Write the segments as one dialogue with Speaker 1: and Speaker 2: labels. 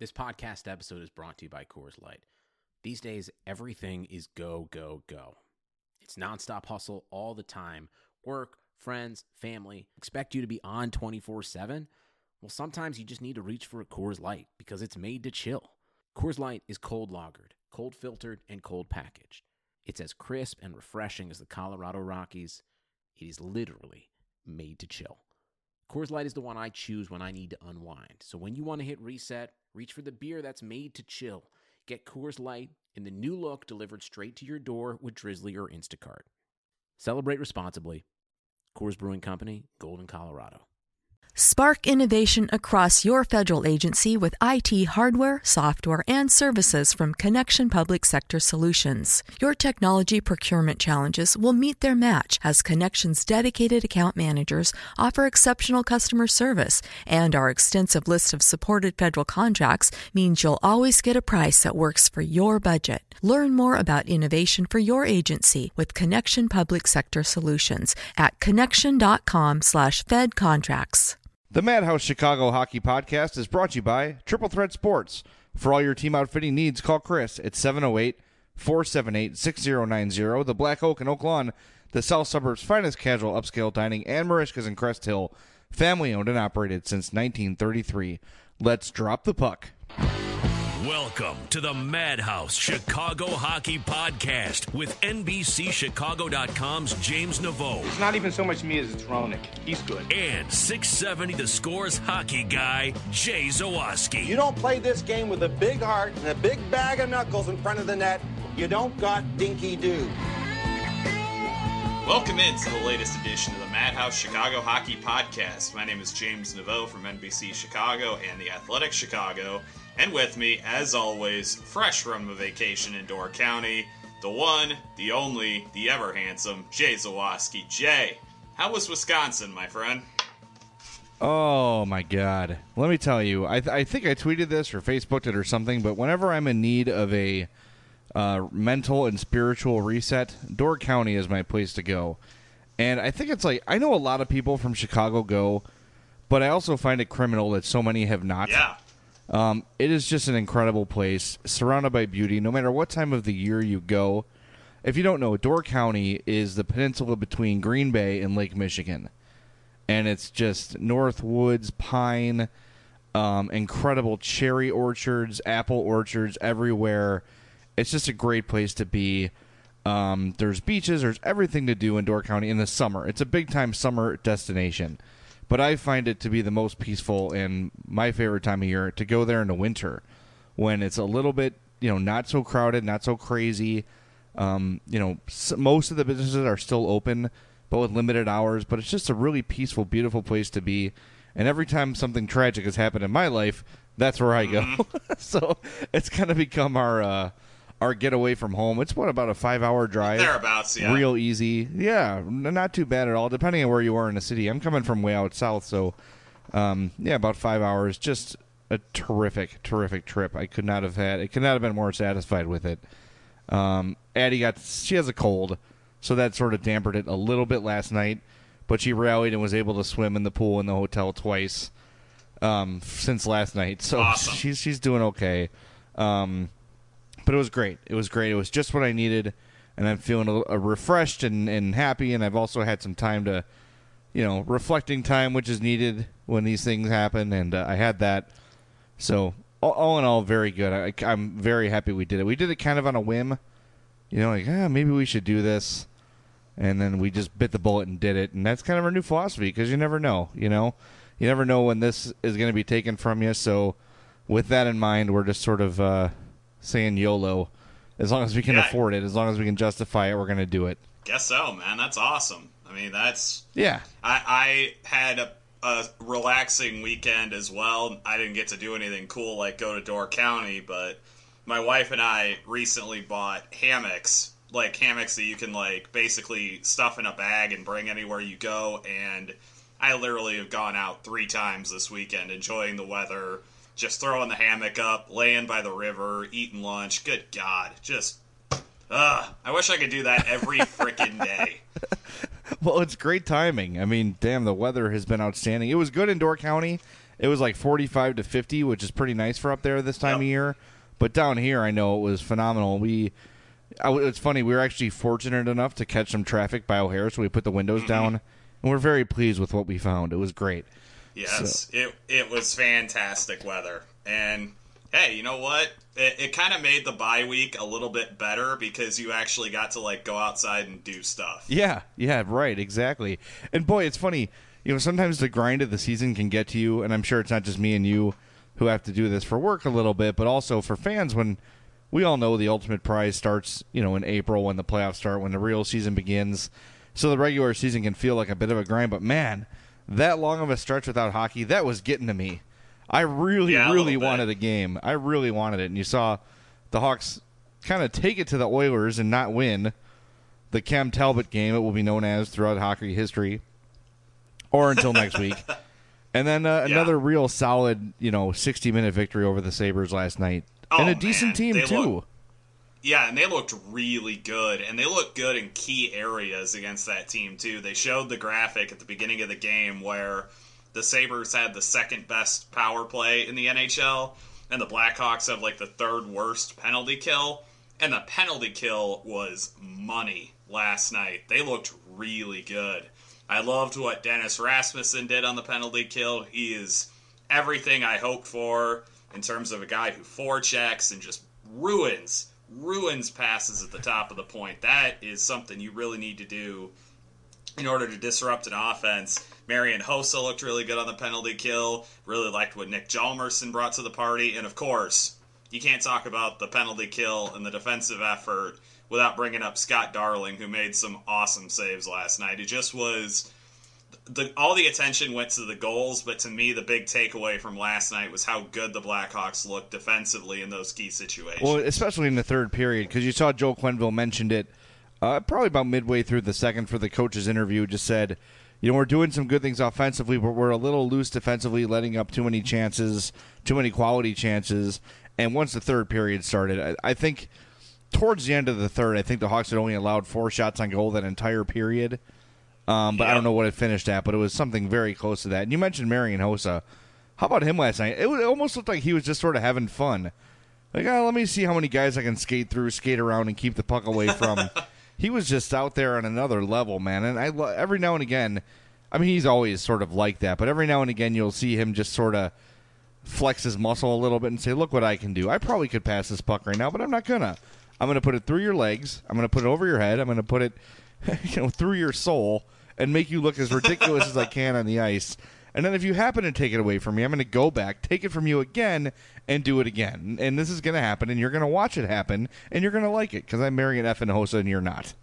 Speaker 1: This podcast episode is brought to you by Coors Light. These days, everything is go, go, go. It's nonstop hustle all the time. Work, friends, family, expect you to be on 24/7. Well, sometimes you just need to reach for a Coors Light because it's made to chill. Coors Light is cold lagered, cold filtered, and cold packaged. It's as crisp and refreshing as the Colorado Rockies. It is literally made to chill. Coors Light is the one I choose when I need to unwind. So when you want to hit reset, reach for the beer that's made to chill. Get Coors Light in the new look delivered straight to your door with Drizzly or Instacart. Celebrate responsibly. Coors Brewing Company, Golden, Colorado.
Speaker 2: Spark innovation across your federal agency with IT hardware, software, and services from Connection Public Sector Solutions. Your technology procurement challenges will meet their match as Connection's dedicated account managers offer exceptional customer service, and our extensive list of supported federal contracts means you'll always get a price that works for your budget. Learn more about innovation for your agency with Connection Public Sector Solutions at connection.com/Fed contracts.
Speaker 3: The Madhouse Chicago Hockey Podcast is brought to you by Triple Threat Sports. For all your team outfitting needs, call Chris at 708-478-6090. The Black Oak in Oak Lawn, the South Suburbs' finest casual upscale dining, and Marishka's in Crest Hill, family-owned and operated since 1933. Let's drop the puck.
Speaker 4: Welcome to the Madhouse Chicago Hockey Podcast with NBCChicago.com's James Naveau.
Speaker 5: It's not even so much me as it's Roenick. He's good.
Speaker 4: And 670 The Score's hockey guy, Jay Zawaski.
Speaker 6: You don't play this game with a big heart and a big bag of knuckles in front of the net. You don't got dinky do.
Speaker 7: Welcome into the latest edition of the Madhouse Chicago Hockey Podcast. My name is James Naveau from NBC Chicago and The Athletic Chicago. And with me, as always, fresh from a vacation in Door County, the one, the only, the ever handsome, Jay Zawaski. Jay, how was Wisconsin, my friend?
Speaker 3: Oh, my God. Let me tell you, I think I tweeted this or Facebooked it or something, but whenever I'm in need of a mental and spiritual reset, Door County is my place to go. And I think it's like, I know a lot of people from Chicago go, but I also find it criminal that so many have not.
Speaker 7: Yeah.
Speaker 3: It is just an incredible place, surrounded by beauty. No matter what time of the year you go, if you don't know, Door County is the peninsula between Green Bay and Lake Michigan. And it's just North Woods, pine, incredible cherry orchards, apple orchards everywhere. It's just a great place to be. There's beaches, there's everything to do in Door County in the summer. It's a big-time summer destination. But I find it to be the most peaceful and my favorite time of year to go there in the winter when it's a little bit, not so crowded, not so crazy. Most of the businesses are still open, but with limited hours. But it's just a really peaceful, beautiful place to be. And every time something tragic has happened in my life, that's where I go. So it's kind of become our getaway from home. It's about a 5-hour drive.
Speaker 7: Thereabouts, yeah.
Speaker 3: Real easy. Yeah, not too bad at all, depending on where you are in the city. I'm coming from way out south, so, about 5 hours. Just a terrific, terrific trip. I could not have been more satisfied with it. Addie she has a cold, so that sort of dampened it a little bit last night, but she rallied and was able to swim in the pool in the hotel twice since last night. So
Speaker 7: awesome.
Speaker 3: She's doing okay. But it was great. It was great. It was just what I needed, and I'm feeling a little refreshed and happy, and I've also had some time to, reflecting time, which is needed when these things happen, and I had that. So, all in all, very good. I'm very happy we did it. We did it kind of on a whim, maybe we should do this, and then we just bit the bullet and did it, and that's kind of our new philosophy, because you never know, You never know when this is going to be taken from you, so with that in mind, we're just sort of saying YOLO. As long as we can afford it, as long as we can justify it, we're going to do it.
Speaker 7: Guess so, man. That's awesome. I mean, that's...
Speaker 3: Yeah.
Speaker 7: I had a relaxing weekend as well. I didn't get to do anything cool like go to Door County, but my wife and I recently bought hammocks. Like hammocks that you can basically stuff in a bag and bring anywhere you go. And I literally have gone out 3 times this weekend enjoying the weather, just throwing the hammock up, laying by the river, eating lunch. Good God. Just, I wish I could do that every frickin' day.
Speaker 3: Well, it's great timing. I mean, damn, the weather has been outstanding. It was good in Door County. it was like 45 to 50, which is pretty nice for up there this time of year. But down here, I know it was phenomenal. It's funny, we were actually fortunate enough to catch some traffic by O'Hare, so we put the windows down, and we're very pleased with what we found. It was great.
Speaker 7: Yes, it was fantastic weather. And, hey, you know what? It kind of made the bye week a little bit better because you actually got to, like, go outside and do stuff.
Speaker 3: Yeah, right, exactly. And, boy, it's funny. You know, sometimes the grind of the season can get to you, and I'm sure it's not just me and you who have to do this for work a little bit, but also for fans when we all know the ultimate prize starts, you know, in April when the playoffs start, when the real season begins. So the regular season can feel like a bit of a grind, but, man, that long of a stretch without hockey, that was getting to me. I really wanted a game. I really wanted it. And you saw the Hawks kind of take it to the Oilers and not win the Cam Talbot game, it will be known as throughout hockey history, or until next week. And then another real solid, 60-minute victory over the Sabres last night. And a decent team, too.
Speaker 7: And they looked really good, and they looked good in key areas against that team, too. They showed the graphic at the beginning of the game where the Sabres had the second-best power play in the NHL, and the Blackhawks have, like, the third-worst penalty kill, and the penalty kill was money last night. They looked really good. I loved what Dennis Rasmussen did on the penalty kill. He is everything I hoped for in terms of a guy who forechecks and just ruins passes at the top of the point. That is something you really need to do in order to disrupt an offense. Marian Hossa looked really good on the penalty kill. Really liked what Nick Hjalmarsson brought to the party. And, of course, you can't talk about the penalty kill and the defensive effort without bringing up Scott Darling, who made some awesome saves last night. It just was... all the attention went to the goals, but to me, the big takeaway from last night was how good the Blackhawks looked defensively in those key situations.
Speaker 3: Well, especially in the third period, because you saw Joe Quenneville mentioned it probably about midway through the second for the coach's interview, just said, we're doing some good things offensively, but we're a little loose defensively, letting up too many chances, too many quality chances. And once the third period started, I think towards the end of the third, I think the Hawks had only allowed 4 shots on goal that entire period. But I don't know what it finished at, but it was something very close to that. And you mentioned Marian Hossa. How about him last night? It almost looked like he was just sort of having fun. Like, let me see how many guys I can skate around, and keep the puck away from. He was just out there on another level, man. And every now and again, I mean, he's always sort of like that, but every now and again you'll see him just sort of flex his muscle a little bit and say, look what I can do. I probably could pass this puck right now, but I'm not going to. I'm going to put it through your legs. I'm going to put it over your head. I'm going to put it through your soul and make you look as ridiculous as I can on the ice. And then if you happen to take it away from me, I'm going to go back, take it from you again, and do it again. And this is going to happen, and you're going to watch it happen, and you're going to like it, because I'm Marian F. and Hossa, and you're not.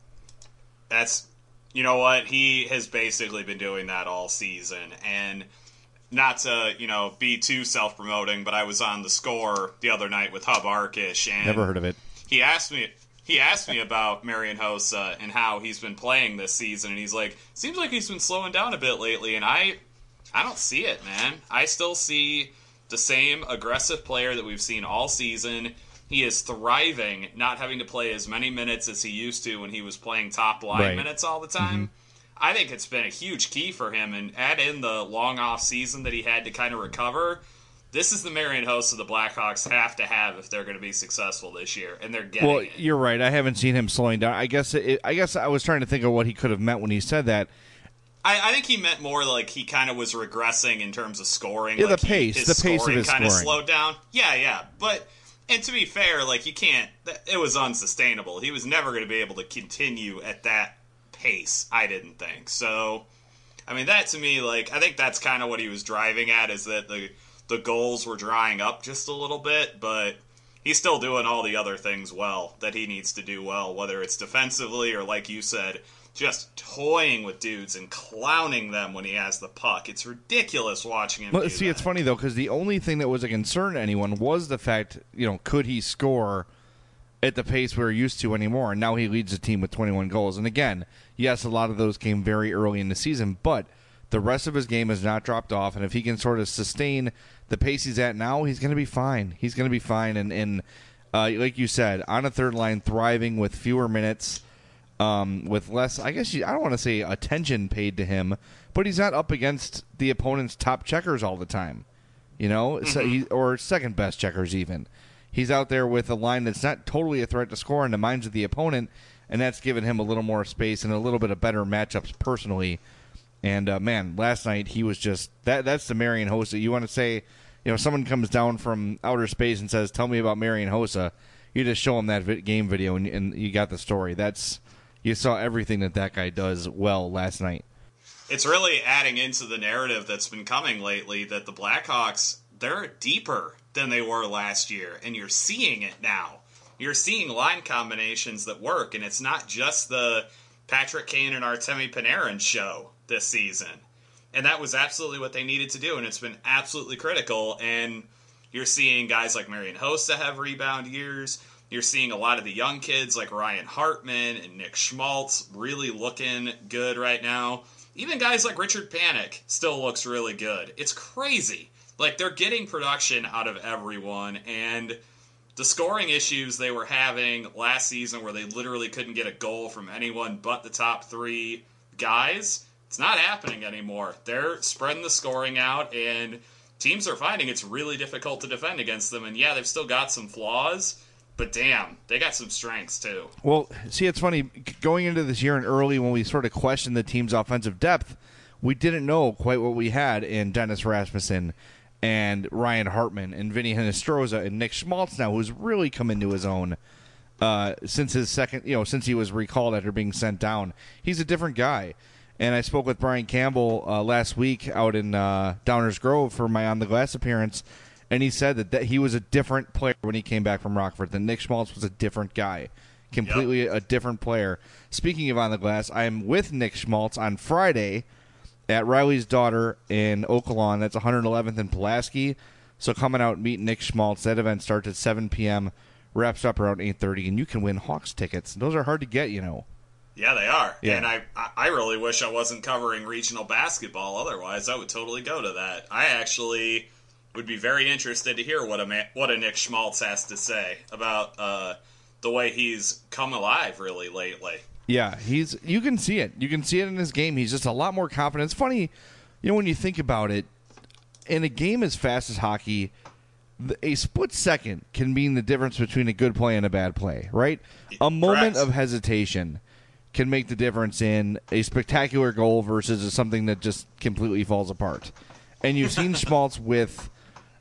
Speaker 7: You know what? He has basically been doing that all season. And not to, be too self-promoting, but I was on The Score the other night with Hub Arkish. And
Speaker 3: never heard of it.
Speaker 7: He asked me about Marian Hossa and how he's been playing this season, and he's like, seems like he's been slowing down a bit lately, and I don't see it, man. I still see the same aggressive player that we've seen all season. He is thriving, not having to play as many minutes as he used to when he was playing top line minutes all the time. Mm-hmm. I think it's been a huge key for him, and add in the long off season that he had to kind of recover. This is the Marian Hossa the Blackhawks have to have if they're going to be successful this year, and they're getting it.
Speaker 3: You're right. I haven't seen him slowing down. I guess I was trying to think of what he could have meant when he said that.
Speaker 7: I think he meant more like he kind of was regressing in terms of scoring.
Speaker 3: Yeah,
Speaker 7: like
Speaker 3: the pace of his
Speaker 7: kind
Speaker 3: scoring
Speaker 7: of slowed down. Yeah. And to be fair, like, you can't. It was unsustainable. He was never going to be able to continue at that pace. I didn't think so. I mean, that to me, like, I think that's kind of what he was driving at, is that the goals were drying up just a little bit, but he's still doing all the other things well that he needs to do well, whether it's defensively or, like you said, just toying with dudes and clowning them when he has the puck. It's ridiculous watching him do that.
Speaker 3: It's funny, though, because the only thing that was a concern to anyone was the fact, could he score at the pace we're used to anymore? And now he leads the team with 21 goals. And again, yes, a lot of those came very early in the season, but the rest of his game has not dropped off, and if he can sort of sustain the pace he's at now, he's going to be fine. He's going to be fine, and like you said, on a third line, thriving with fewer minutes, with less, I don't want to say attention paid to him, but he's not up against the opponent's top checkers all the time. or second best checkers even. He's out there with a line that's not totally a threat to score in the minds of the opponent, and that's given him a little more space and a little bit of better matchups personally. And, man, last night he was just that's the Marian Hossa. You want to say, someone comes down from outer space and says, tell me about Marian Hossa. You just show him that game video, and you got the story. You saw everything that guy does well last night.
Speaker 7: It's really adding into the narrative that's been coming lately that the Blackhawks, they're deeper than they were last year, and you're seeing it now. You're seeing line combinations that work, and it's not just the Patrick Kane and Artemi Panarin show this season. And that was absolutely what they needed to do, and it's been absolutely critical. And you're seeing guys like Marian Hossa have rebound years. You're seeing a lot of the young kids like Ryan Hartman and Nick Schmaltz really looking good right now. Even guys like Richard Panik still looks really good. It's crazy. Like, they're getting production out of everyone, and the scoring issues they were having last season where they literally couldn't get a goal from anyone but the top three guys, it's not happening anymore. They're spreading the scoring out, and teams are finding it's really difficult to defend against them. And yeah, they've still got some flaws, but damn, they got some strengths too.
Speaker 3: Well, see, it's funny, going into this year and early when we sort of questioned the team's offensive depth, we didn't know quite what we had in Dennis Rasmussen and Ryan Hartman and Vinny Hinostroza and Nick Schmaltz now, who's really come into his own since his second, since he was recalled after being sent down. He's a different guy. And I spoke with Brian Campbell last week out in Downers Grove for my On the Glass appearance, and he said that he was a different player when he came back from Rockford. That Nick Schmaltz was a different guy, completely a different player. Speaking of On the Glass, I'm with Nick Schmaltz on Friday at Riley's Daughter in Oaklawn. That's 111th and Pulaski. So coming out and meet Nick Schmaltz. That event starts at 7 p.m., wraps up around 8:30, and you can win Hawks tickets. Those are hard to get,
Speaker 7: Yeah, they are.
Speaker 3: Yeah.
Speaker 7: And I really wish I wasn't covering regional basketball. Otherwise, I would totally go to that. I actually would be very interested to hear what a Nick Schmaltz has to say about the way he's come alive really lately.
Speaker 3: Yeah, you can see it. You can see it in his game. He's just a lot more confident. It's funny, when you think about it, in a game as fast as hockey, a split second can mean the difference between a good play and a bad play, right? A moment of hesitation can make the difference in a spectacular goal versus something that just completely falls apart. And you've seen Schmaltz with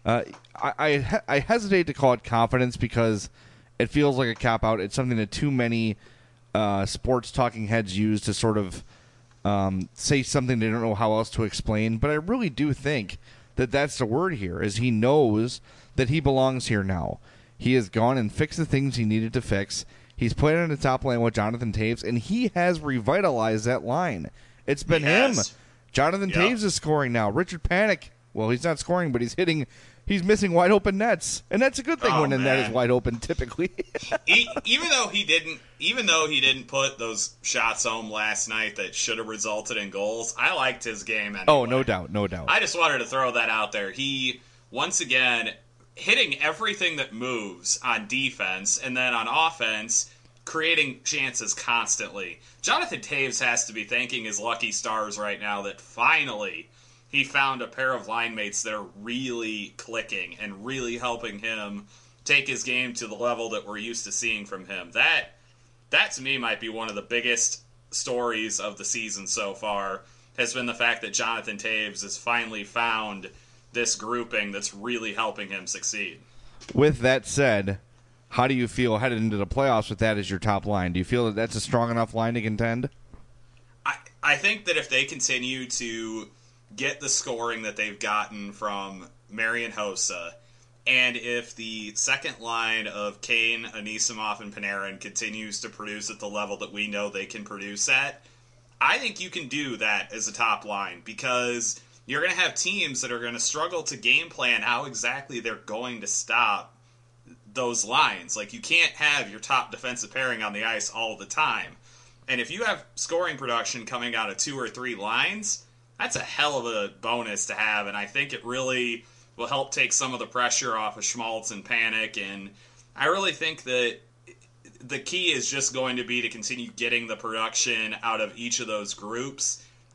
Speaker 3: I hesitate to call it confidence because it feels like a cop-out. It's something that too many sports talking heads use to sort of say something they don't know how else to explain. But I really do think that that's the word here, is he knows that he belongs here now. He has gone and fixed the things he needed to fix. He's played on the top line with Jonathan Toews, and he has revitalized that line. It's been him. Jonathan Toews is scoring now. Richard Panik, well, he's not scoring, but he's missing wide open nets, and that's a good thing when the net is wide open typically.
Speaker 7: even though he didn't put those shots home last night that should have resulted in goals, I liked his game anyway.
Speaker 3: Oh, no doubt.
Speaker 7: I just wanted to throw that out there. He, once again, hitting everything that moves on defense, and then on offense, creating chances constantly. Jonathan Toews has to be thanking his lucky stars right now that finally he found a pair of line mates that are really clicking and really helping him take his game to the level that we're used to seeing from him. That to me might be one of the biggest stories of the season so far, has been the fact that Jonathan Toews has finally found this grouping that's really helping him succeed.
Speaker 3: With that said, how do you feel headed into the playoffs with that as your top line? Do you feel that that's a strong enough line to contend?
Speaker 7: I think that if they continue to get the scoring that they've gotten from Marian Hossa, and if the second line of Kane, Anisimov, and Panarin continues to produce at the level that we know they can produce at, I think you can do that as a top line, because you're going to have teams that are going to struggle to game plan how exactly they're going to stop those lines. Like, you can't have your top defensive pairing on the ice all the time. And if you have scoring production coming out of 2 or 3 lines, that's a hell of a bonus to have, and I think it really will help take some of the pressure off of Schmaltz and Panik, and I really think that the key is just going to be to continue getting the production out of each of those groups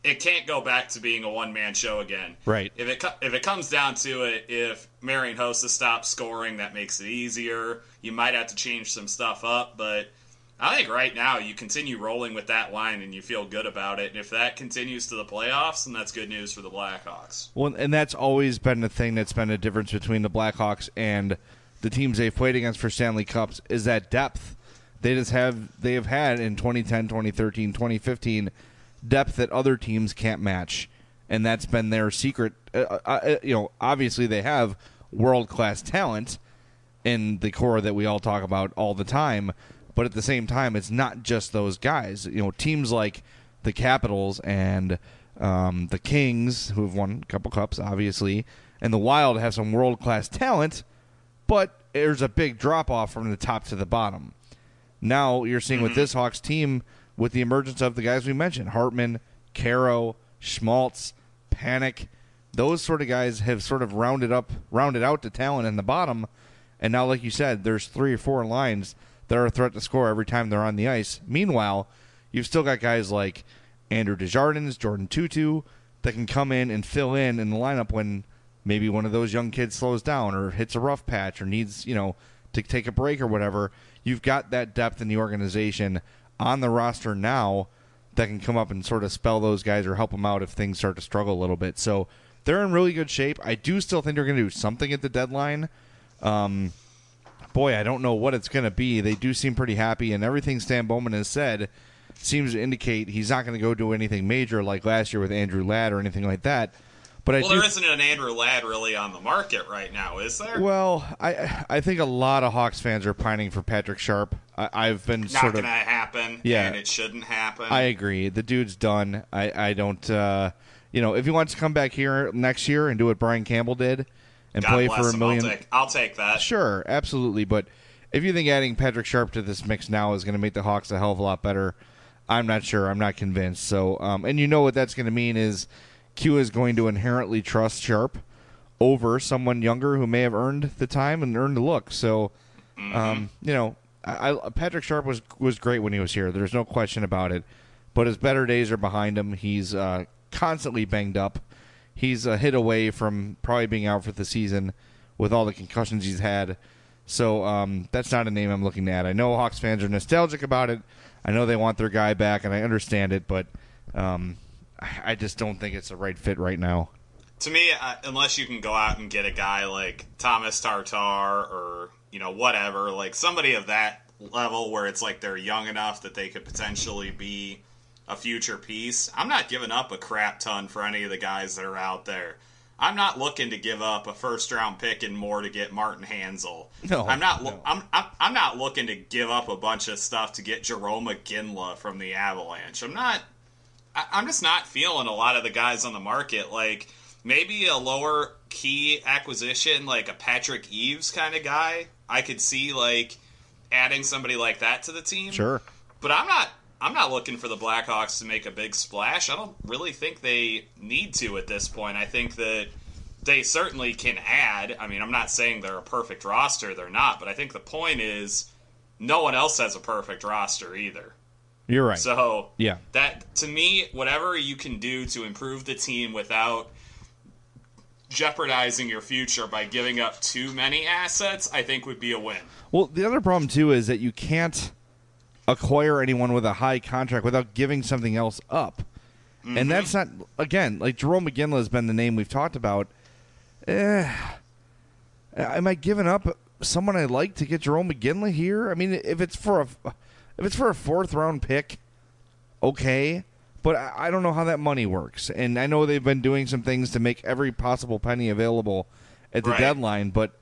Speaker 7: it can't go back to being a one-man show again.
Speaker 3: Right.
Speaker 7: If it comes down to it, if Marian Hossa stops scoring, that makes it easier. You might have to change some stuff up, but I think right now you continue rolling with that line and you feel good about it. And if that continues to the playoffs, then that's good news for the Blackhawks.
Speaker 3: Well, and that's always been the thing that's been a difference between the Blackhawks and the teams they've played against for Stanley Cups is that depth. They have had in 2010, 2013, 2015 depth that other teams can't match, and that's been their secret. Obviously they have world-class talent in the core that we all talk about all the time, but at the same time, it's not just those guys. Teams like the Capitals and the Kings, who have won a couple cups, obviously, and the Wild have some world-class talent, but there's a big drop-off from the top to the bottom. Now you're seeing with this Hawks team, with the emergence of the guys we mentioned, Hartman, Caro, Schmaltz, Panic, those sort of guys have sort of rounded out the talent in the bottom, and now, like you said, there's 3 or 4 lines that are a threat to score every time they're on the ice. Meanwhile, you've still got guys like Andrew Desjardins, Jordan Tutu, that can come in and fill in the lineup when maybe one of those young kids slows down or hits a rough patch or needs, to take a break or whatever. You've got that depth in the organization on the roster now that can come up and sort of spell those guys or help them out if things start to struggle a little bit. So they're in really good shape. I do still think they're going to do something at the deadline. Boy, I don't know what it's going to be. They do seem pretty happy, and everything Stan Bowman has said seems to indicate he's not going to go do anything major like last year with Andrew Ladd or anything like that. But
Speaker 7: there isn't an Andrew Ladd really on the market right now, is there?
Speaker 3: Well, I think a lot of Hawks fans are pining for Patrick Sharp. I've been
Speaker 7: not going to happen, and it shouldn't happen.
Speaker 3: I agree. The dude's done. I don't. If he wants to come back here next year and do what Brian Campbell did and
Speaker 7: God
Speaker 3: play
Speaker 7: bless
Speaker 3: for $1
Speaker 7: him.
Speaker 3: million,
Speaker 7: I'll take that.
Speaker 3: Sure, absolutely. But if you think adding Patrick Sharp to this mix now is going to make the Hawks a hell of a lot better, I'm not sure. I'm not convinced. So, and what that's going to mean is Q is going to inherently trust Sharp over someone younger who may have earned the time and earned the look. So, Patrick Sharp was great when he was here. There's no question about it. But his better days are behind him. He's constantly banged up. He's a hit away from probably being out for the season with all the concussions he's had. So that's not a name I'm looking at. I know Hawks fans are nostalgic about it. I know they want their guy back, and I understand it, but I just don't think it's the right fit right now.
Speaker 7: To me, unless you can go out and get a guy like Thomas Tatar or, whatever, like somebody of that level where it's like they're young enough that they could potentially be a future piece, I'm not giving up a crap ton for any of the guys that are out there. I'm not looking to give up a first-round pick and more to get Martin Hanzal.
Speaker 3: No,
Speaker 7: I'm not looking to give up a bunch of stuff to get Jerome McGinley from the Avalanche. I'm just not feeling a lot of the guys on the market. Like, maybe a lower key acquisition, like a Patrick Eaves kind of guy. I could see, like, adding somebody like that to the team.
Speaker 3: Sure.
Speaker 7: But I'm not looking for the Blackhawks to make a big splash. I don't really think they need to at this point. I think that they certainly can add. I mean, I'm not saying they're a perfect roster. They're not. But I think the point is no one else has a perfect roster either.
Speaker 3: You're right.
Speaker 7: So,
Speaker 3: yeah,
Speaker 7: that to me, whatever you can do to improve the team without jeopardizing your future by giving up too many assets, I think would be a win.
Speaker 3: Well, the other problem, too, is that you can't acquire anyone with a high contract without giving something else up. Mm-hmm. And that's not, again, like Jerome McGinley has been the name we've talked about. Am I giving up someone I like to get Jerome McGinley here? I mean, if it's for a fourth-round pick, okay. But I don't know how that money works. And I know they've been doing some things to make every possible penny available at the deadline, but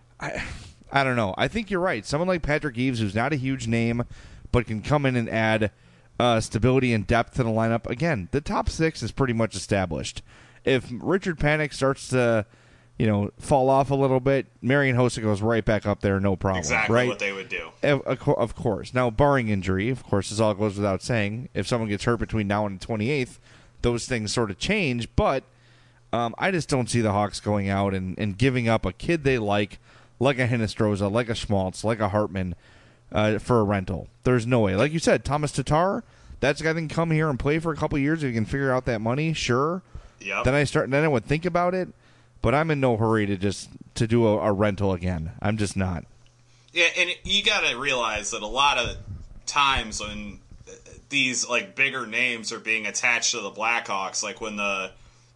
Speaker 3: I don't know. I think you're right. Someone like Patrick Eaves, who's not a huge name, but can come in and add stability and depth to the lineup. Again, the top six is pretty much established. If Richard Panik starts to, fall off a little bit, Marian Hossa goes right back up there, no problem.
Speaker 7: Exactly
Speaker 3: right?
Speaker 7: What they would do.
Speaker 3: Of course. Now, barring injury, of course, this all goes without saying. If someone gets hurt between now and the 28th, those things sort of change. But I just don't see the Hawks going out and giving up a kid they like a Hinostroza, like a Schmaltz, like a Hartman, for a rental. There's no way. Like you said, Thomas Tatar, that's a guy that can come here and play for a couple years if he can figure out that money, sure.
Speaker 7: Yep.
Speaker 3: Then I would think about it, but I'm in no hurry to do a rental again. I'm just not.
Speaker 7: Yeah, and you got to realize that a lot of times when these like bigger names are being attached to the Blackhawks, like when the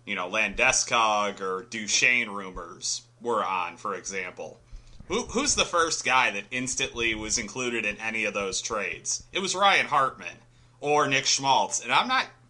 Speaker 7: Landeskog or Duchesne rumors were on, for example. Who's the first guy that instantly was included in any of those trades? It was Ryan Hartman or Nick Schmaltz, and I'm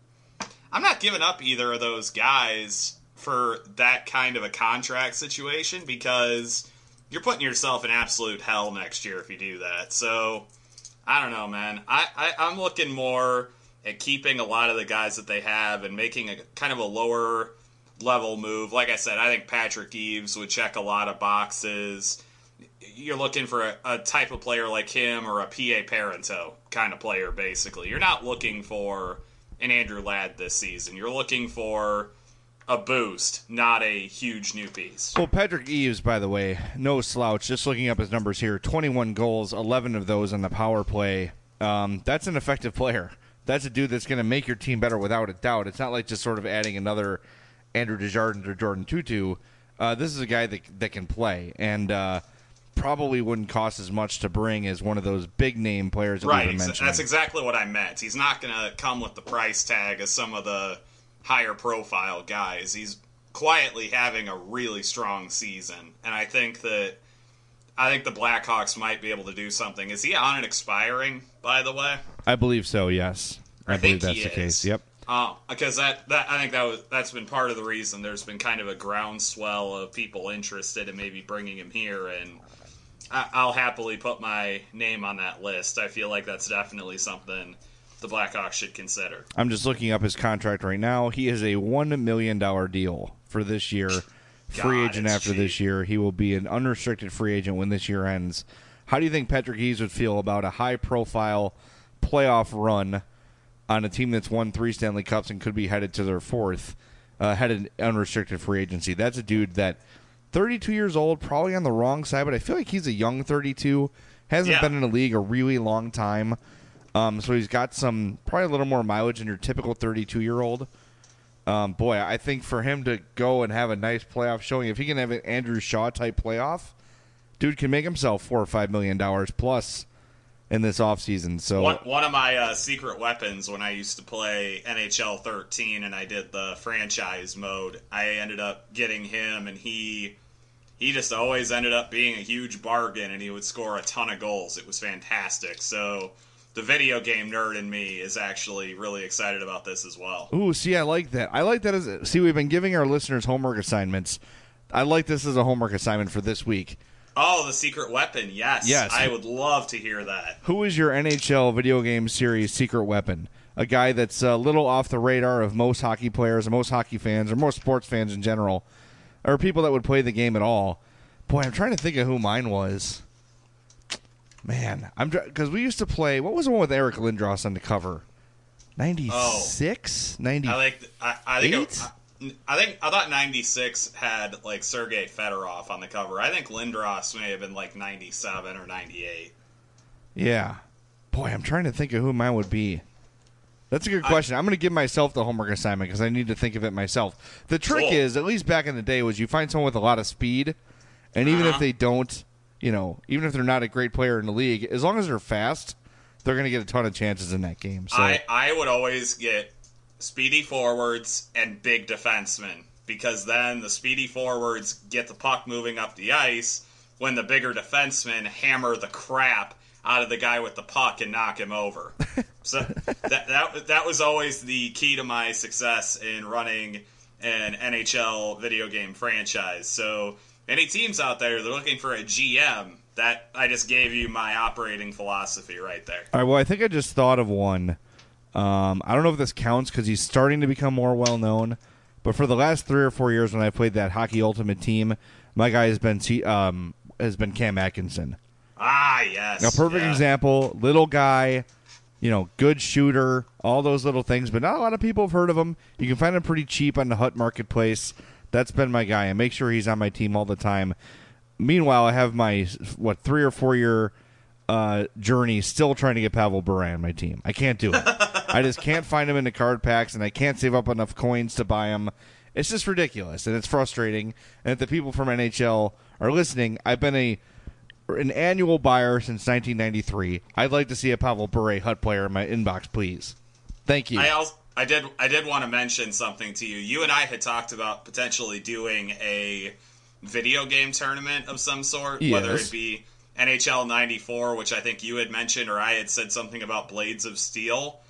Speaker 7: not giving up either of those guys for that kind of a contract situation, because you're putting yourself in absolute hell next year if you do that. So I don't know, man. I'm looking more at keeping a lot of the guys that they have and making a kind of a lower level move. Like I said, I think Patrick Eaves would check a lot of boxes. You're looking for a type of player like him or a P.A. Parento kind of player, basically. You're not looking for an Andrew Ladd this season. You're looking for a boost, not a huge new piece.
Speaker 3: Well, Patrick Eaves, by the way, no slouch. Just looking up his numbers here, 21 goals, 11 of those on the power play. That's an effective player. That's a dude that's going to make your team better without a doubt. It's not like just sort of adding another Andrew Desjardins or Jordan Tutu. This is a guy that can play, and probably wouldn't cost as much to bring as one of those big-name players that
Speaker 7: right,
Speaker 3: we were mentioning.
Speaker 7: That's exactly what I meant. He's not going to come with the price tag as some of the higher-profile guys. He's quietly having a really strong season, and I think the Blackhawks might be able to do something. Is he on an expiring, by the way?
Speaker 3: I believe so, yes. I believe that's the case, yep.
Speaker 7: Because I think that's been part of the reason there's been kind of a groundswell of people interested in maybe bringing him here, and I'll happily put my name on that list. I feel like that's definitely something the Blackhawks should consider.
Speaker 3: I'm just looking up his contract right now. He is a $1 million deal for this year. Free agent after this year. He will be an unrestricted free agent when this year ends. How do you think Patrick Eaves would feel about a high-profile playoff run on a team that's won 3 Stanley Cups and could be headed to their 4th, headed unrestricted free agency? That's a dude that 32 years old, probably on the wrong side, but I feel like he's a young 32. Hasn't been in the league a really long time. So he's got probably a little more mileage than your typical 32-year-old. Boy, I think for him to go and have a nice playoff showing, if he can have an Andrew Shaw-type playoff, dude can make himself $4 or $5 million plus in this offseason. So
Speaker 7: one of my secret weapons when I used to play NHL 13 and I did the franchise mode, I ended up getting him, and he just always ended up being a huge bargain, and he would score a ton of goals. It was fantastic. So the video game nerd in me is actually really excited about this as well.
Speaker 3: Ooh, see, I like that. See, we've been giving our listeners homework assignments. I like this as a homework assignment for this week.
Speaker 7: Oh, the secret weapon, yes. I would love to hear that.
Speaker 3: Who is your NHL video game series secret weapon? A guy that's a little off the radar of most hockey players, or most hockey fans, or most sports fans in general, or people that would play the game at all. Boy, I'm trying to think of who mine was. Man, because we used to play. What was the one with Eric Lindros on the cover? 96, 98.
Speaker 7: I thought 96 had like Sergei Fedorov on the cover. I think Lindros may have been like 97 or 98.
Speaker 3: Yeah, boy, I'm trying to think of who mine would be. That's a good question. I'm going to give myself the homework assignment because I need to think of it myself. The trick is, at least back in the day, was you find someone with a lot of speed, and even if they don't. Even if they're not a great player in the league, as long as they're fast, they're going to get a ton of chances in that game. So
Speaker 7: I would always get speedy forwards and big defensemen, because then the speedy forwards get the puck moving up the ice when the bigger defensemen hammer the crap out of the guy with the puck and knock him over. So that was always the key to my success in running an NHL video game franchise. So any teams out there, they're looking for a GM. That I just gave you my operating philosophy right there.
Speaker 3: All right, well, I think I just thought of one. I don't know if this counts because he's starting to become more well-known, but for the last 3 or 4 years when I played that Hockey Ultimate team, my guy has been Cam Atkinson.
Speaker 7: Ah, yes.
Speaker 3: A perfect example, little guy, good shooter, all those little things, but not a lot of people have heard of him. You can find him pretty cheap on the Hut Marketplace. That's been my guy. I make sure he's on my team all the time. Meanwhile, I have my 3 or 4 year journey still trying to get Pavel Bure on my team. I can't do it. I just can't find them in the card packs, and I can't save up enough coins to buy them. It's just ridiculous, and it's frustrating. And if the people from NHL are listening, I've been an annual buyer since 1993. I'd like to see a Pavel Bure Hut player in my inbox, please. Thank you.
Speaker 7: I did want to mention something to you. You and I had talked about potentially doing a video game tournament of some sort,
Speaker 3: yes.
Speaker 7: Whether it be NHL 94, which I think you had mentioned, or I had said something about Blades of Steel.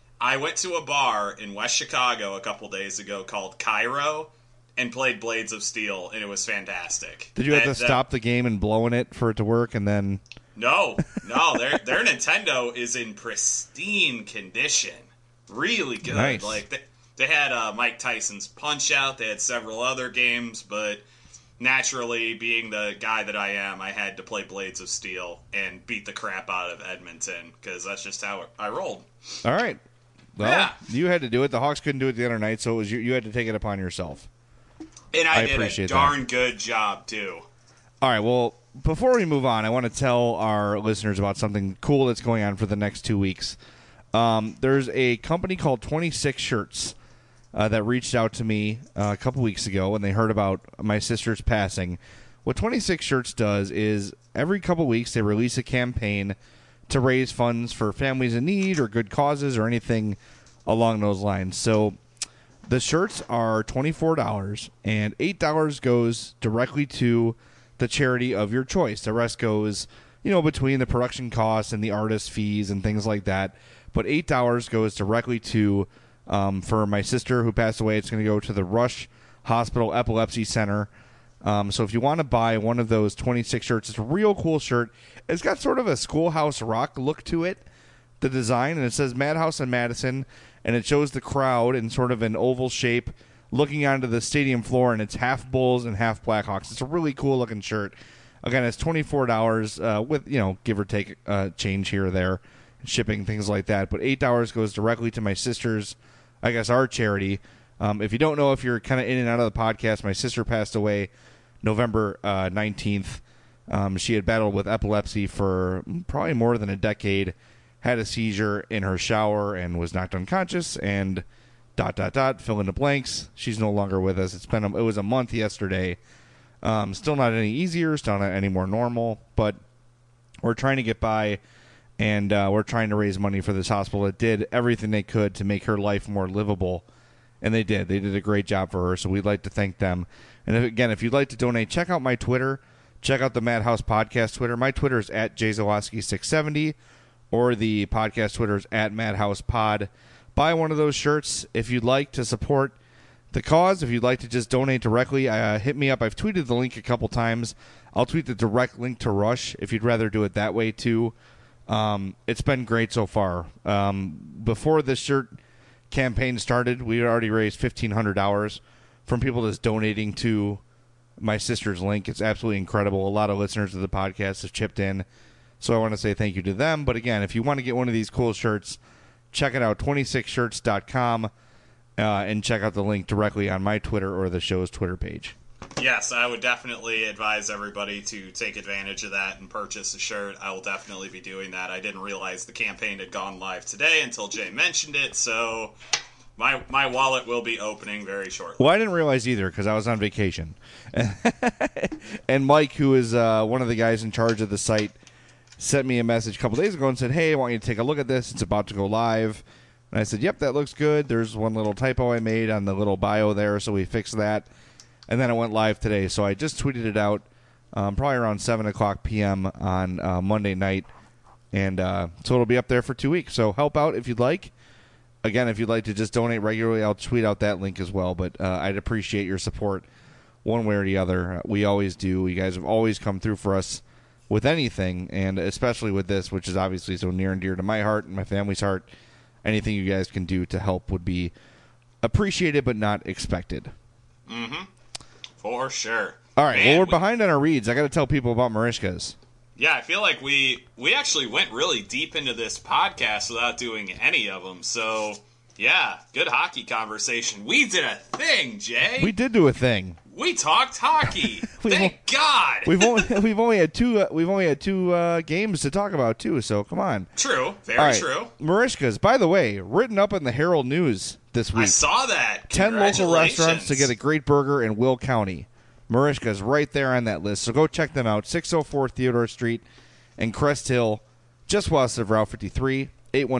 Speaker 7: I went to a bar in West Chicago a couple days ago called Cairo and played Blades of Steel, and it was fantastic.
Speaker 3: Did you have to stop the game and blow in it for it to work, and then...
Speaker 7: No, their Nintendo is in pristine condition. Really good.
Speaker 3: Nice.
Speaker 7: Like they had Mike Tyson's Punch-Out. They had several other games, but naturally, being the guy that I am, I had to play Blades of Steel and beat the crap out of Edmonton because that's just how I rolled.
Speaker 3: All right. Well,
Speaker 7: yeah.
Speaker 3: You had to do it. The Hawks couldn't do it the other night, so it was you had to take it upon yourself.
Speaker 7: And I did
Speaker 3: appreciate
Speaker 7: a darn good job, too.
Speaker 3: All right, well, before we move on, I want to tell our listeners about something cool that's going on for the next 2 weeks. There's a company called 26 Shirts that reached out to me a couple weeks ago when they heard about my sister's passing. What 26 Shirts does is every couple weeks they release a campaign to raise funds for families in need or good causes or anything along those lines. So the shirts are $24, and $8 goes directly to the charity of your choice. The rest goes, between the production costs and the artist fees and things like that. But $8 goes directly to, for my sister who passed away, it's going to go to the Rush Hospital Epilepsy Center. So if you want to buy one of those 26 shirts, it's a real cool shirt. It's got sort of a Schoolhouse Rock look to it, the design, and it says Madhouse and Madison, and it shows the crowd in sort of an oval shape looking onto the stadium floor, and it's half Bulls and half Blackhawks. It's a really cool looking shirt. Again, it's $24 with, give or take change here or there, shipping, things like that. But $8 goes directly to my sister's, our charity. If you don't know, if you're kind of in and out of the podcast, my sister passed away November 19th. She had battled with epilepsy for probably more than a decade, had a seizure in her shower and was knocked unconscious, and ... fill in the blanks. She's no longer with us. It was a month yesterday. Still not any easier, still not any more normal, but we're trying to get by, and we're trying to raise money for this hospital that did everything they could to make her life more livable, and they did. They did a great job for her, so we'd like to thank them. And if you'd like to donate, check out my Twitter. Check out the Madhouse Podcast Twitter. My Twitter is @JZawoski670, or the podcast Twitter is @MadhousePod. Buy one of those shirts if you'd like to support the cause. If you'd like to just donate directly, hit me up. I've tweeted the link a couple times. I'll tweet the direct link to Rush if you'd rather do it that way too. It's been great so far. Before this shirt campaign started, we had already raised $1,500 from people just donating to my sister's link. It's absolutely incredible. A lot of listeners of the podcast have chipped in, so I want to say thank you to them. But again, if you want to get one of these cool shirts, check it out, 26shirts.com, and check out the link directly on my Twitter or the show's Twitter page.
Speaker 7: Yes, I would definitely advise everybody to take advantage of that and purchase a shirt. I will definitely be doing that. I didn't realize the campaign had gone live today until Jay mentioned it, so my wallet will be opening very shortly.
Speaker 3: Well, I didn't realize either because I was on vacation. And Mike, who is one of the guys in charge of the site, sent me a message a couple days ago and said, hey, I want you to take a look at this. It's about to go live. And I said, yep, that looks good. There's one little typo I made on the little bio there, so we fixed that. And then it went live today. So I just tweeted it out probably around 7 o'clock p.m. on Monday night. And so it'll be up there for 2 weeks. So help out if you'd like. Again, if you'd like to just donate regularly, I'll tweet out that link as well. But I'd appreciate your support one way or the other. We always do. You guys have always come through for us with anything, and especially with this, which is obviously so near and dear to my heart and my family's heart. Anything you guys can do to help would be appreciated but not expected.
Speaker 7: Mm-hmm. For sure.
Speaker 3: All right, well, we're behind on our reads. I got to tell people about Marishka's.
Speaker 7: Yeah, I feel like we actually went really deep into this podcast without doing any of them. So, yeah, good hockey conversation. We did a thing, Jay.
Speaker 3: We did do a thing.
Speaker 7: We talked hockey. Thank God.
Speaker 3: We've only had two games to talk about too. So come on.
Speaker 7: True. Very
Speaker 3: All right.
Speaker 7: true.
Speaker 3: Marishka's, by the way, written up in the Herald News this week.
Speaker 7: I saw that.
Speaker 3: 10 local restaurants
Speaker 7: Congratulations.
Speaker 3: to get a great burger in Will County. Marishka's right there on that list. So go check them out. 604 Theodore Street in Crest Hill, just west of Route 53.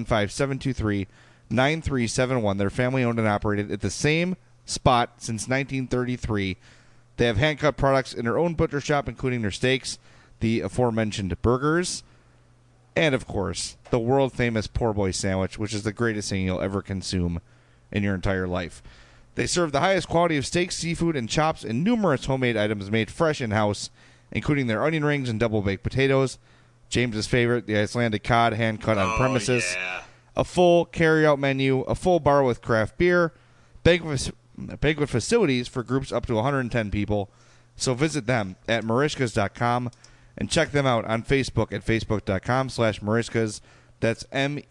Speaker 3: 815-723-9371. They're family owned and operated at the same spot since 1933. They have hand-cut products in their own butcher shop, including their steaks, the aforementioned burgers, and, of course, the world-famous poor boy sandwich, which is the greatest thing you'll ever consume in your entire life. They serve the highest quality of steaks, seafood, and chops, and numerous homemade items made fresh in-house, including their onion rings and double-baked potatoes. James's favorite, the Icelandic cod, hand-cut on premises.
Speaker 7: Yeah.
Speaker 3: A full carry-out menu, a full bar with craft beer, banquet facilities for groups up to 110 people. So visit them at Marishkas.com and check them out on Facebook at facebook.com/Marishkas. That's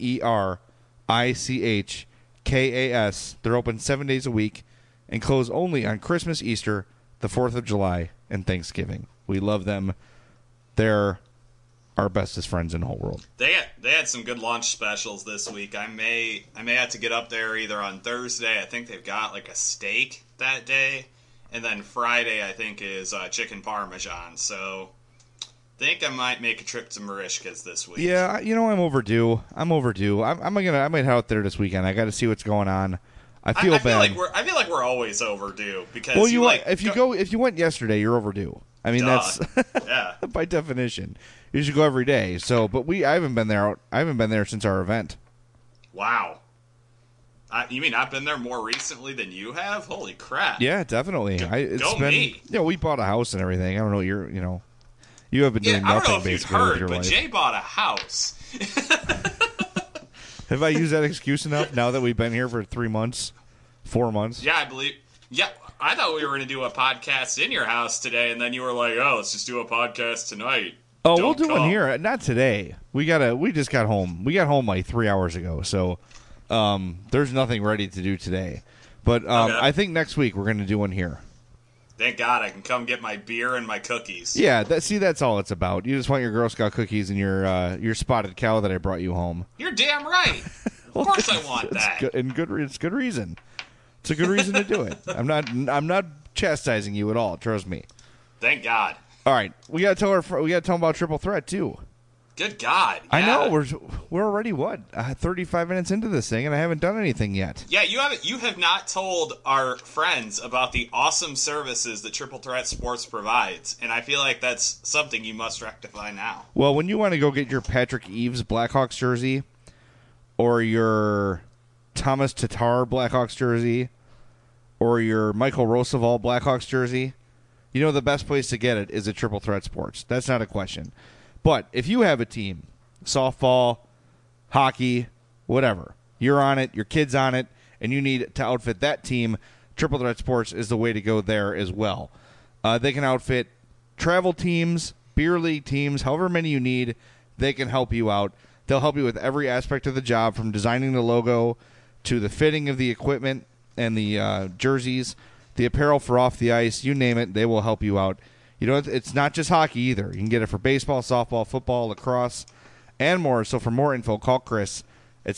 Speaker 3: MERICHKAS. They're open 7 days a week and close only on Christmas, Easter, the 4th of July, and Thanksgiving. We love them. They're our bestest friends in the whole world.
Speaker 7: They had some good lunch specials this week. I may have to get up there either on Thursday. I think they've got like a steak that day, and then Friday I think is chicken parmesan. So I think I might make a trip to Marishka's this week.
Speaker 3: Yeah, I'm overdue. I might head out there this weekend. I got to see what's going on. I feel bad.
Speaker 7: I feel like we're always overdue because
Speaker 3: if you went yesterday, you're overdue. I mean, that's
Speaker 7: yeah.
Speaker 3: by definition. You should go every day. So, but I haven't been there. I haven't been there since our event.
Speaker 7: Wow. You mean I've been there more recently than you have? Holy crap!
Speaker 3: Yeah, definitely.
Speaker 7: Me.
Speaker 3: We bought a house and everything. I don't know. You have been doing nothing
Speaker 7: I don't know if
Speaker 3: basically
Speaker 7: you've
Speaker 3: with your
Speaker 7: heard, but
Speaker 3: life.
Speaker 7: Jay bought a house.
Speaker 3: Have I used that excuse enough now that we've been here for 3 months, 4 months?
Speaker 7: Yeah, I believe. Yeah, I thought we were going to do a podcast in your house today, and then you were like, "Oh, let's just do a podcast tonight."
Speaker 3: Oh,
Speaker 7: Don't
Speaker 3: we'll do
Speaker 7: come.
Speaker 3: one here. Not today. We just got home. We got home like 3 hours ago. So, there's nothing ready to do today. But
Speaker 7: Okay.
Speaker 3: I think next week we're going to do one here.
Speaker 7: Thank God I can come get my beer and my cookies.
Speaker 3: Yeah, that's all it's about. You just want your Girl Scout cookies and your spotted cow that I brought you home.
Speaker 7: You're damn right. Of course I want that.
Speaker 3: It's good reason. It's a good reason to do it. I'm not chastising you at all. Trust me.
Speaker 7: Thank God.
Speaker 3: All right, we got to tell them about Triple Threat too.
Speaker 7: Good God.
Speaker 3: I
Speaker 7: yeah.
Speaker 3: know we're already 35 minutes into this thing, and I haven't done anything yet.
Speaker 7: Yeah, you have not told our friends about the awesome services that Triple Threat Sports provides, and I feel like that's something you must rectify now.
Speaker 3: Well, when you want to go get your Patrick Eaves Blackhawks jersey, or your Thomas Tatar Blackhawks jersey, or your Michael Roosevelt Blackhawks jersey, you know the best place to get it is at Triple Threat Sports. That's not a question. But if you have a team, softball, hockey, whatever, you're on it, your kid's on it, and you need to outfit that team, Triple Threat Sports is the way to go there as well. They can outfit travel teams, beer league teams, however many you need, they can help you out. They'll help you with every aspect of the job, from designing the logo to the fitting of the equipment and the jerseys, the apparel for off the ice, you name it, they will help you out. You know, it's not just hockey either. You can get it for baseball, softball, football, lacrosse, and more. So for more info, call Chris at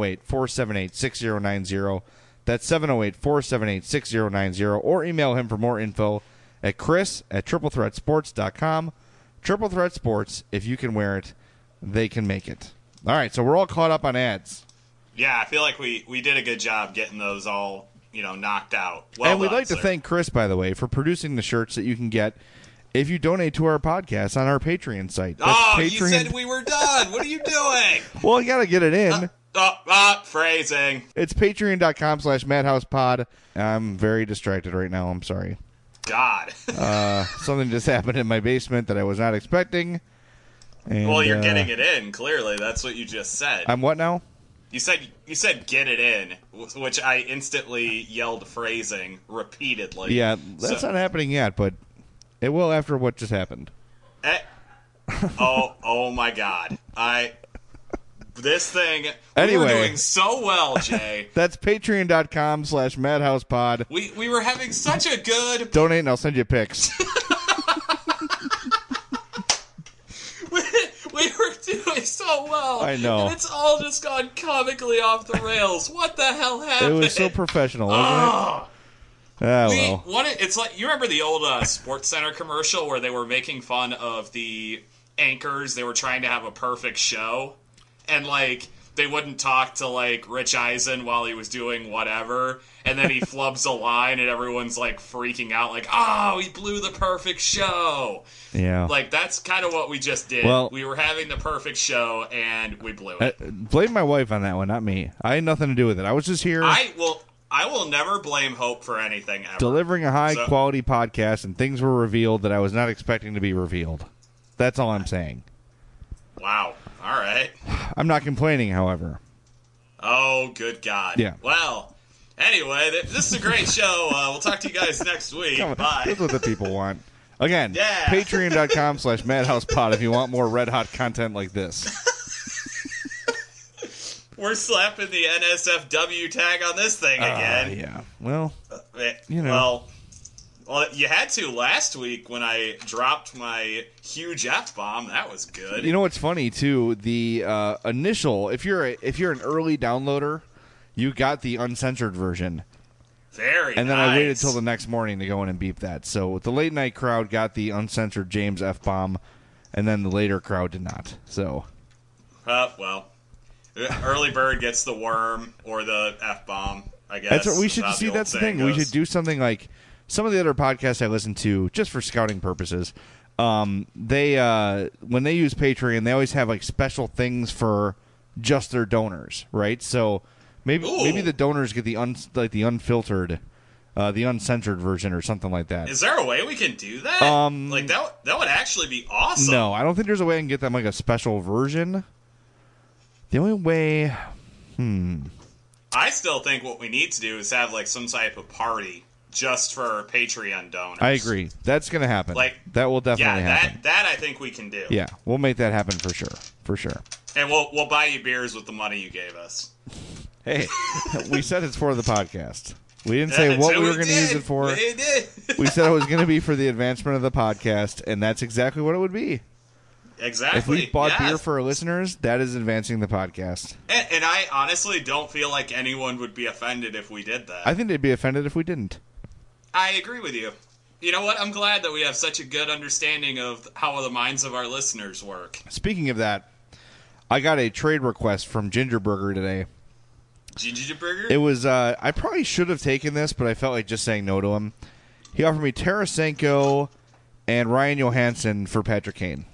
Speaker 3: 708-478-6090. That's 708-478-6090. Or email him for more info at chris@triplethreatsports.com. Triple Threat Sports, if you can wear it, they can make it. All right, so we're all caught up on ads.
Speaker 7: Yeah, I feel like we did a good job getting those all, knocked out. Well
Speaker 3: and we'd
Speaker 7: done,
Speaker 3: like to
Speaker 7: sir.
Speaker 3: thank Chris, by the way, for producing the shirts that you can get if you donate to our podcast on our Patreon site. That's
Speaker 7: you said we were done. What are you doing?
Speaker 3: Well, you got to get it in.
Speaker 7: Phrasing.
Speaker 3: It's patreon.com/madhousepod. I'm very distracted right now. I'm sorry.
Speaker 7: God.
Speaker 3: Something just happened in my basement that I was not expecting. And,
Speaker 7: Well, you're getting it in, clearly. That's what you just said.
Speaker 3: I'm what now?
Speaker 7: You said get it in, which I instantly yelled phrasing repeatedly.
Speaker 3: Yeah, that's not happening yet, but it will after what just happened.
Speaker 7: Oh my God. This thing,
Speaker 3: Anyway.
Speaker 7: we were doing so well, Jay.
Speaker 3: That's patreon.com/madhousepod.
Speaker 7: We were having such a good...
Speaker 3: Donate and I'll send you pics.
Speaker 7: doing so well.
Speaker 3: I know.
Speaker 7: And it's all just gone comically off the rails. What the hell happened?
Speaker 3: It was so professional, wasn't it? Well.
Speaker 7: It's like, you remember the old Sports Center commercial where they were making fun of the anchors? They were trying to have a perfect show, and like they wouldn't talk to like Rich Eisen while he was doing whatever, and then he flubs a line and everyone's like freaking out, like, oh, he blew the perfect show.
Speaker 3: Yeah.
Speaker 7: Like, that's kind of what we just did.
Speaker 3: Well,
Speaker 7: we were having the perfect show and we blew it.
Speaker 3: Blame my wife on that one, not me. I had nothing to do with it. I was just here.
Speaker 7: I will never blame Hope for anything ever.
Speaker 3: Delivering a high-quality podcast, and things were revealed that I was not expecting to be revealed. That's all I'm saying.
Speaker 7: Wow. All right.
Speaker 3: I'm not complaining, however.
Speaker 7: Oh, good God.
Speaker 3: Yeah.
Speaker 7: Well, anyway, this is a great show. We'll talk to you guys next week. Bye.
Speaker 3: That's what the people want. Again,
Speaker 7: Yeah.
Speaker 3: patreon.com/madhousepod if you want more red-hot content like this.
Speaker 7: We're slapping the NSFW tag on this thing again.
Speaker 3: Yeah. Well, you know.
Speaker 7: Well, you had to last week when I dropped my huge F-bomb. That was good.
Speaker 3: You know what's funny too? The initial, if you're an early downloader, you got the uncensored version.
Speaker 7: Very
Speaker 3: And then
Speaker 7: nice.
Speaker 3: I waited till the next morning to go in and beep that. So the late night crowd got the uncensored James F-bomb, and then the later crowd did not. So.
Speaker 7: Well, early bird gets the worm or the F-bomb, I guess.
Speaker 3: That's what we should see. That's the thing. We should do something like some of the other podcasts I listen to, just for scouting purposes. They when they use Patreon, they always have like special things for just their donors, right? So maybe the donors get the unfiltered, the uncensored version or something like that.
Speaker 7: Is there a way we can do that? Like that would actually be awesome.
Speaker 3: No, I don't think there's a way I can get them like a special version. The only way,
Speaker 7: I still think what we need to do is have like some type of party just for Patreon donors.
Speaker 3: I agree. That's going to happen.
Speaker 7: Like,
Speaker 3: that will definitely happen.
Speaker 7: That I think we can do.
Speaker 3: Yeah, we'll make that happen for sure.
Speaker 7: And we'll buy you beers with the money you gave us.
Speaker 3: Hey, we said it's for the podcast. We didn't say what we were going to use it for.
Speaker 7: We did.
Speaker 3: We said it was going to be for the advancement of the podcast, and that's exactly what it would be.
Speaker 7: Exactly.
Speaker 3: If we bought
Speaker 7: yes.
Speaker 3: beer for our listeners, that is advancing the podcast.
Speaker 7: And I honestly don't feel like anyone would be offended if we did that.
Speaker 3: I think they'd be offended if we didn't.
Speaker 7: I agree with you. You know what? I'm glad that we have such a good understanding of how the minds of our listeners work.
Speaker 3: Speaking of that, I got a trade request from Ginger Burger today.
Speaker 7: Ginger Burger?
Speaker 3: It was, I probably should have taken this, but I felt like just saying no to him. He offered me Tarasenko and Ryan Johansson for Patrick Kane.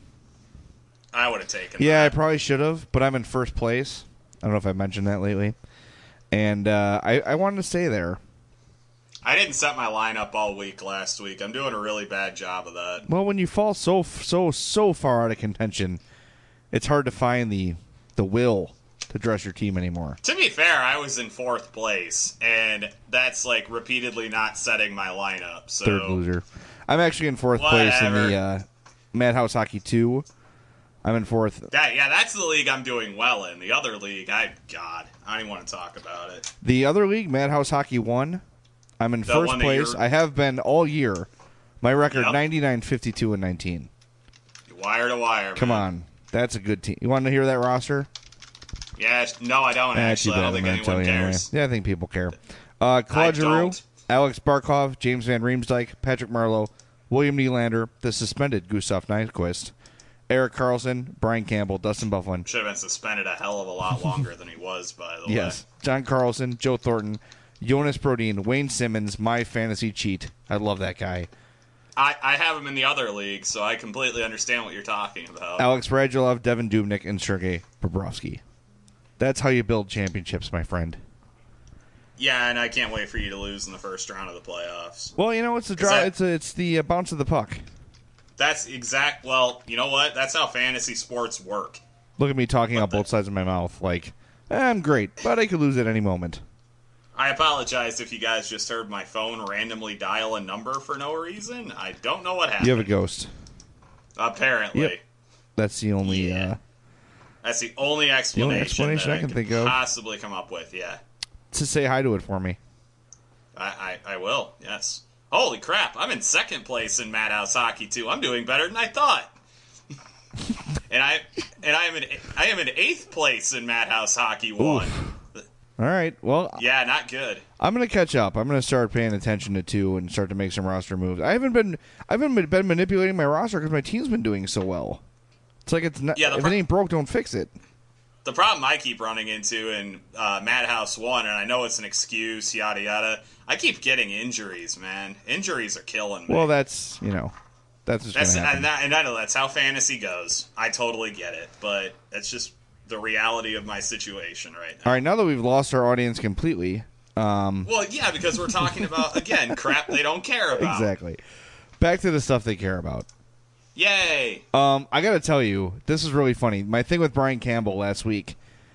Speaker 7: I would have taken
Speaker 3: Yeah, I
Speaker 7: that.
Speaker 3: probably should have, but I'm in first place. I don't know if I mentioned that lately. And I wanted to stay there.
Speaker 7: I didn't set my lineup all week last week. I'm doing a really bad job of that.
Speaker 3: Well, when you fall so far out of contention, it's hard to find the will to dress your team anymore.
Speaker 7: To be fair, I was in fourth place, and that's like repeatedly not setting my lineup. So
Speaker 3: Third loser. I'm actually in fourth place in the Madhouse Hockey 2. I'm in fourth.
Speaker 7: That's the league I'm doing well in. The other league, I don't even want to talk about it.
Speaker 3: The other league, Madhouse Hockey 1, I'm in first place. I have been all year. My record, 99, 52, and 19.
Speaker 7: Wire to wire,
Speaker 3: Come
Speaker 7: man.
Speaker 3: on. That's a good team. You want to hear that roster?
Speaker 7: Yeah, no, I don't actually. I don't think anyone cares.
Speaker 3: Yeah, I think people care. Claude Giroux,
Speaker 7: don't.
Speaker 3: Alex Barkov, James Van Riemsdyk, Patrick Marleau, William Nylander, the suspended Gustav Nyquist, Eric Carlson, Brian Campbell, Dustin Byfuglien.
Speaker 7: Should have been suspended a hell of a lot longer than he was, by the way.
Speaker 3: Yes. John Carlson, Joe Thornton, Jonas Brodin, Wayne Simmons, my fantasy cheat. I love that guy.
Speaker 7: I have him in the other league, so I completely understand what you're talking about.
Speaker 3: Alex Radulov, Devin Dubnyk, and Sergei Bobrovsky. That's how you build championships, my friend.
Speaker 7: Yeah, and I can't wait for you to lose in the first round of the playoffs.
Speaker 3: Well, you know, it's the draw. It's the bounce of the puck.
Speaker 7: That's exact. Well, you know what? That's how fantasy sports work.
Speaker 3: Look at me talking out both sides of my mouth. Like, I'm great, but I could lose at any moment.
Speaker 7: I apologize if you guys just heard my phone randomly dial a number for no reason. I don't know what happened.
Speaker 3: You have a ghost.
Speaker 7: Apparently.
Speaker 3: Yep. That's the only.
Speaker 7: That's the only explanation, that
Speaker 3: I can think of.
Speaker 7: Possibly come up with. Yeah.
Speaker 3: To say hi to it for me.
Speaker 7: I will. Yes. Holy crap! I'm in second place in Madhouse Hockey 2. I'm doing better than I thought. and I am in 8th place in Madhouse Hockey 1.
Speaker 3: All right. Well,
Speaker 7: yeah, not good.
Speaker 3: I'm going to catch up. I'm going to start paying attention to 2 and start to make some roster moves. I haven't been manipulating my roster because my team's been doing so well. It's like it's not. If it ain't broke, don't fix it.
Speaker 7: The problem I keep running into in Madhouse 1, and I know it's an excuse, yada yada. I keep getting injuries, man. Injuries are killing me.
Speaker 3: Well, that's just going to happen.
Speaker 7: And I know that's how fantasy goes. I totally get it, but it's just the reality of my situation right now.
Speaker 3: All right, now that we've lost our audience completely.
Speaker 7: Well, yeah, because we're talking about, again, crap they don't care about.
Speaker 3: Exactly. Back to the stuff they care about.
Speaker 7: Yay!
Speaker 3: I got to tell you, this is really funny. My thing with Brian Campbell last week,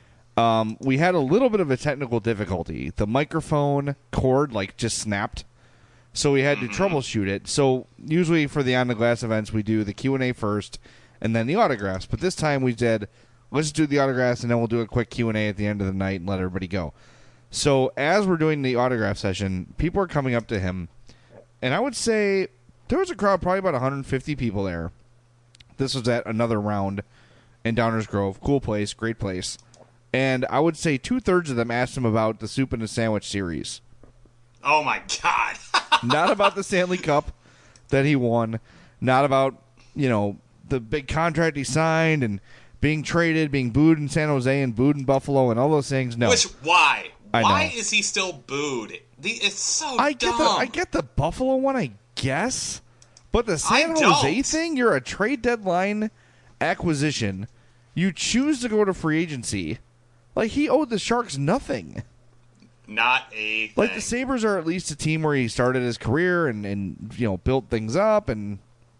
Speaker 3: we had a little bit of a technical difficulty. The microphone cord, just snapped. So we had to troubleshoot it. So usually for the On the Glass events, we do the Q&A first and then the autographs. But this time we said, let's do the autographs and then we'll do a quick Q&A at the end of the night and let everybody go. So as we're doing the autograph session, people are coming up to him. And I would say there was a crowd, probably about 150 people there. This was at another round in Downers Grove. Cool place, great place. And I would say 2/3 of them asked him about the Soup and the Sandwich series.
Speaker 7: Oh, my God.
Speaker 3: Not about the Stanley Cup that he won. Not about, the big contract he signed and being traded, being booed in San Jose and booed in Buffalo and all those things. No.
Speaker 7: Why? Why is he still booed? It's so dumb.
Speaker 3: I get the Buffalo one, I guess. But the San Jose thing, you're a trade deadline acquisition. You choose to go to free agency. He owed the Sharks nothing.
Speaker 7: Not a thing.
Speaker 3: The Sabres are at least a team where he started his career and built things up and,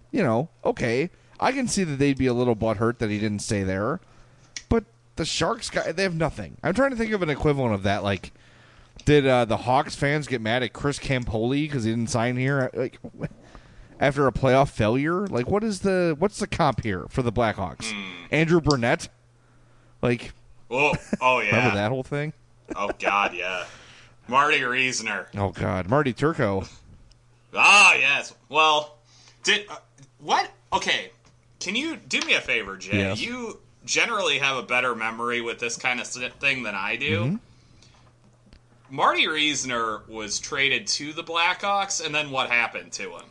Speaker 3: okay. I can see that they'd be a little butthurt that he didn't stay there. But the Sharks, they have nothing. I'm trying to think of an equivalent of that. Did the Hawks fans get mad at Chris Campoli because he didn't sign here? After a playoff failure? What's the comp here for the Blackhawks? Andrew Burnett?
Speaker 7: Oh, yeah.
Speaker 3: Remember that whole thing?
Speaker 7: Oh, God, yeah. Marty Reisner.
Speaker 3: Oh, God. Marty Turco.
Speaker 7: Ah, yes. Well, what? Okay. Can you do me a favor, Jay?
Speaker 3: Yes.
Speaker 7: You generally have a better memory with this kind of thing than I do.
Speaker 3: Mm-hmm.
Speaker 7: Marty Reisner was traded to the Blackhawks, and then what happened to him?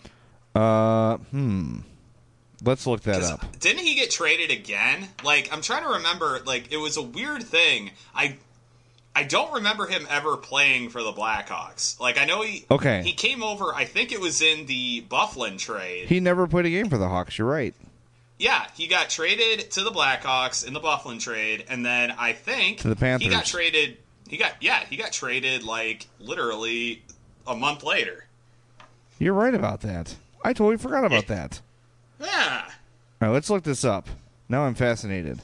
Speaker 3: Let's look that up.
Speaker 7: Didn't he get traded again? I'm trying to remember. It was a weird thing. I don't remember him ever playing for the Blackhawks. I know he came over. I think it was in the Byfuglien trade.
Speaker 3: He never played a game for the Hawks. You're right.
Speaker 7: Yeah, he got traded to the Blackhawks in the Byfuglien trade, and then I think
Speaker 3: to the Panthers.
Speaker 7: He got traded. He got traded literally a month later.
Speaker 3: You're right about that. I totally forgot about that.
Speaker 7: Yeah.
Speaker 3: All right, let's look this up. Now I'm fascinated.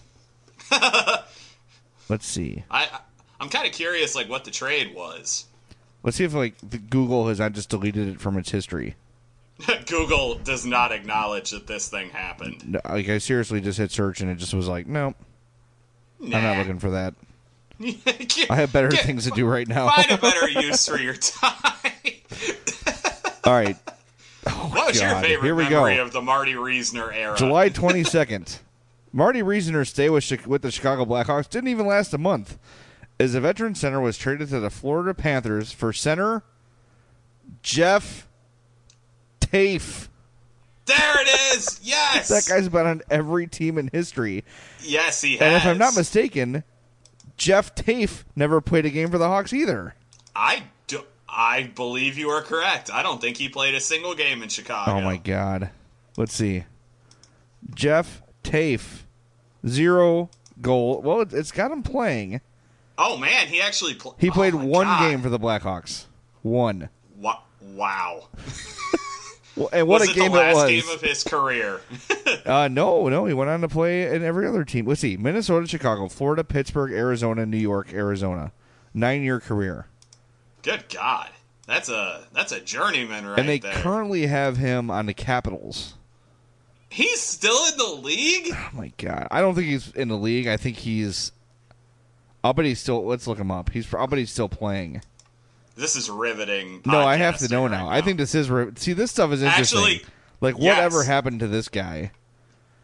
Speaker 3: Let's see.
Speaker 7: I'm kind of curious, what the trade was.
Speaker 3: Let's see if the Google has not just deleted it from its history.
Speaker 7: Google does not acknowledge that this thing happened.
Speaker 3: No, I seriously just hit search and it just was nope.
Speaker 7: Nah.
Speaker 3: I'm not looking for that. I have better things to do right now.
Speaker 7: Find a better use for your time.
Speaker 3: All right. Oh,
Speaker 7: what was your favorite memory of the Marty Reisner era?
Speaker 3: July 22nd. Marty Reisner's stay with the Chicago Blackhawks didn't even last a month, as a veteran center was traded to the Florida Panthers for center Jeff Tafe.
Speaker 7: There it is! Yes!
Speaker 3: That guy's been on every team in history.
Speaker 7: Yes, he has.
Speaker 3: And if I'm not mistaken, Jeff Tafe never played a game for the Hawks either.
Speaker 7: I believe you are correct. I don't think he played a single game in Chicago.
Speaker 3: Oh, my God. Let's see. Jeff Tafe. 0 goal. Well, it's got him playing.
Speaker 7: Oh, man. He actually played.
Speaker 3: He played one game for the Blackhawks. One.
Speaker 7: Wow.
Speaker 3: Well, and what
Speaker 7: was
Speaker 3: a game
Speaker 7: it the last
Speaker 3: was.
Speaker 7: game of his career?
Speaker 3: No. He went on to play in every other team. Let's see. Minnesota, Chicago, Florida, Pittsburgh, Arizona, New York, Arizona. 9-year career.
Speaker 7: Good God. That's a journeyman right there.
Speaker 3: And they currently have him on the Capitals.
Speaker 7: He's still in the league?
Speaker 3: Oh, my God. I don't think he's in the league. I think he's... I'll bet he's still... Let's look him up. I'll bet he's still playing.
Speaker 7: This is riveting.
Speaker 3: No, I have to know now. I think this is... See, this stuff is interesting.
Speaker 7: Actually,
Speaker 3: whatever happened to this guy?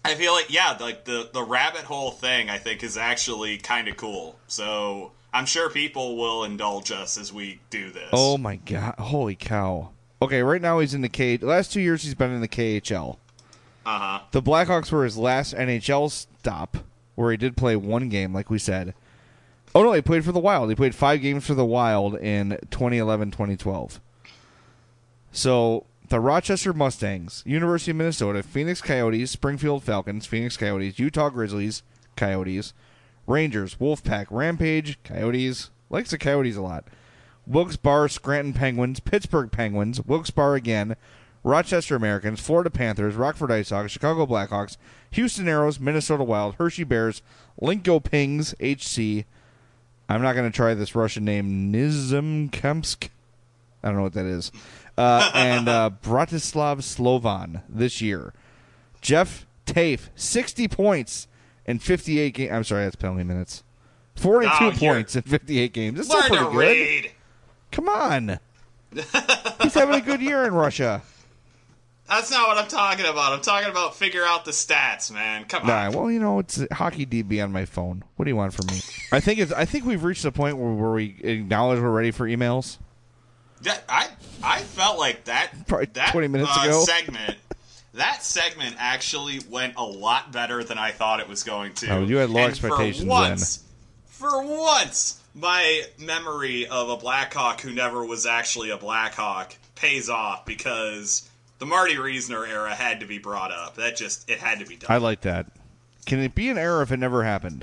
Speaker 7: I feel like, yeah, like the rabbit hole thing, I think, is actually kind of cool. So I'm sure people will indulge us as we do this.
Speaker 3: Oh, my God. Holy cow. Okay, right now he's in the last 2 years he's been in the KHL.
Speaker 7: Uh-huh.
Speaker 3: The Blackhawks were his last NHL stop, where he did play one game, like we said. Oh, no, he played for the Wild. He played 5 games for the Wild in 2011-2012. So, the Rochester Mustangs, University of Minnesota, Phoenix Coyotes, Springfield Falcons, Phoenix Coyotes, Utah Grizzlies, Coyotes, Rangers, Wolfpack, Rampage, Coyotes, likes the Coyotes a lot, Wilkes-Barre, Scranton Penguins, Pittsburgh Penguins, Wilkes-Barre again, Rochester Americans, Florida Panthers, Rockford IceHogs, Chicago Blackhawks, Houston Aeros, Minnesota Wild, Hershey Bears, Linkopings, HC. I'm not going to try this Russian name, Nizhemkamsk. I don't know what that is. And Bratislav Slovan this year. Jeff Tafe, 60 points in 58 games. I'm sorry, that's penalty minutes. 42 points in 58 games. That's still pretty good.
Speaker 7: Read.
Speaker 3: Come on. He's having a good year in Russia.
Speaker 7: That's not what I'm talking about. I'm talking about figure out the stats, man. Come on.
Speaker 3: Nah, well, you know, it's Hockey DB on my phone. What do you want from me? I think we've reached the point where we acknowledge we're ready for emails.
Speaker 7: I felt like that
Speaker 3: Probably 20 minutes ago.
Speaker 7: That segment actually went a lot better than I thought it was going to.
Speaker 3: Oh, you had low expectations then.
Speaker 7: For once, my memory of a Blackhawk who never was actually a Blackhawk pays off because the Marty Reisner era had to be brought up. It had to be done.
Speaker 3: I like that. Can it be an error if it never happened?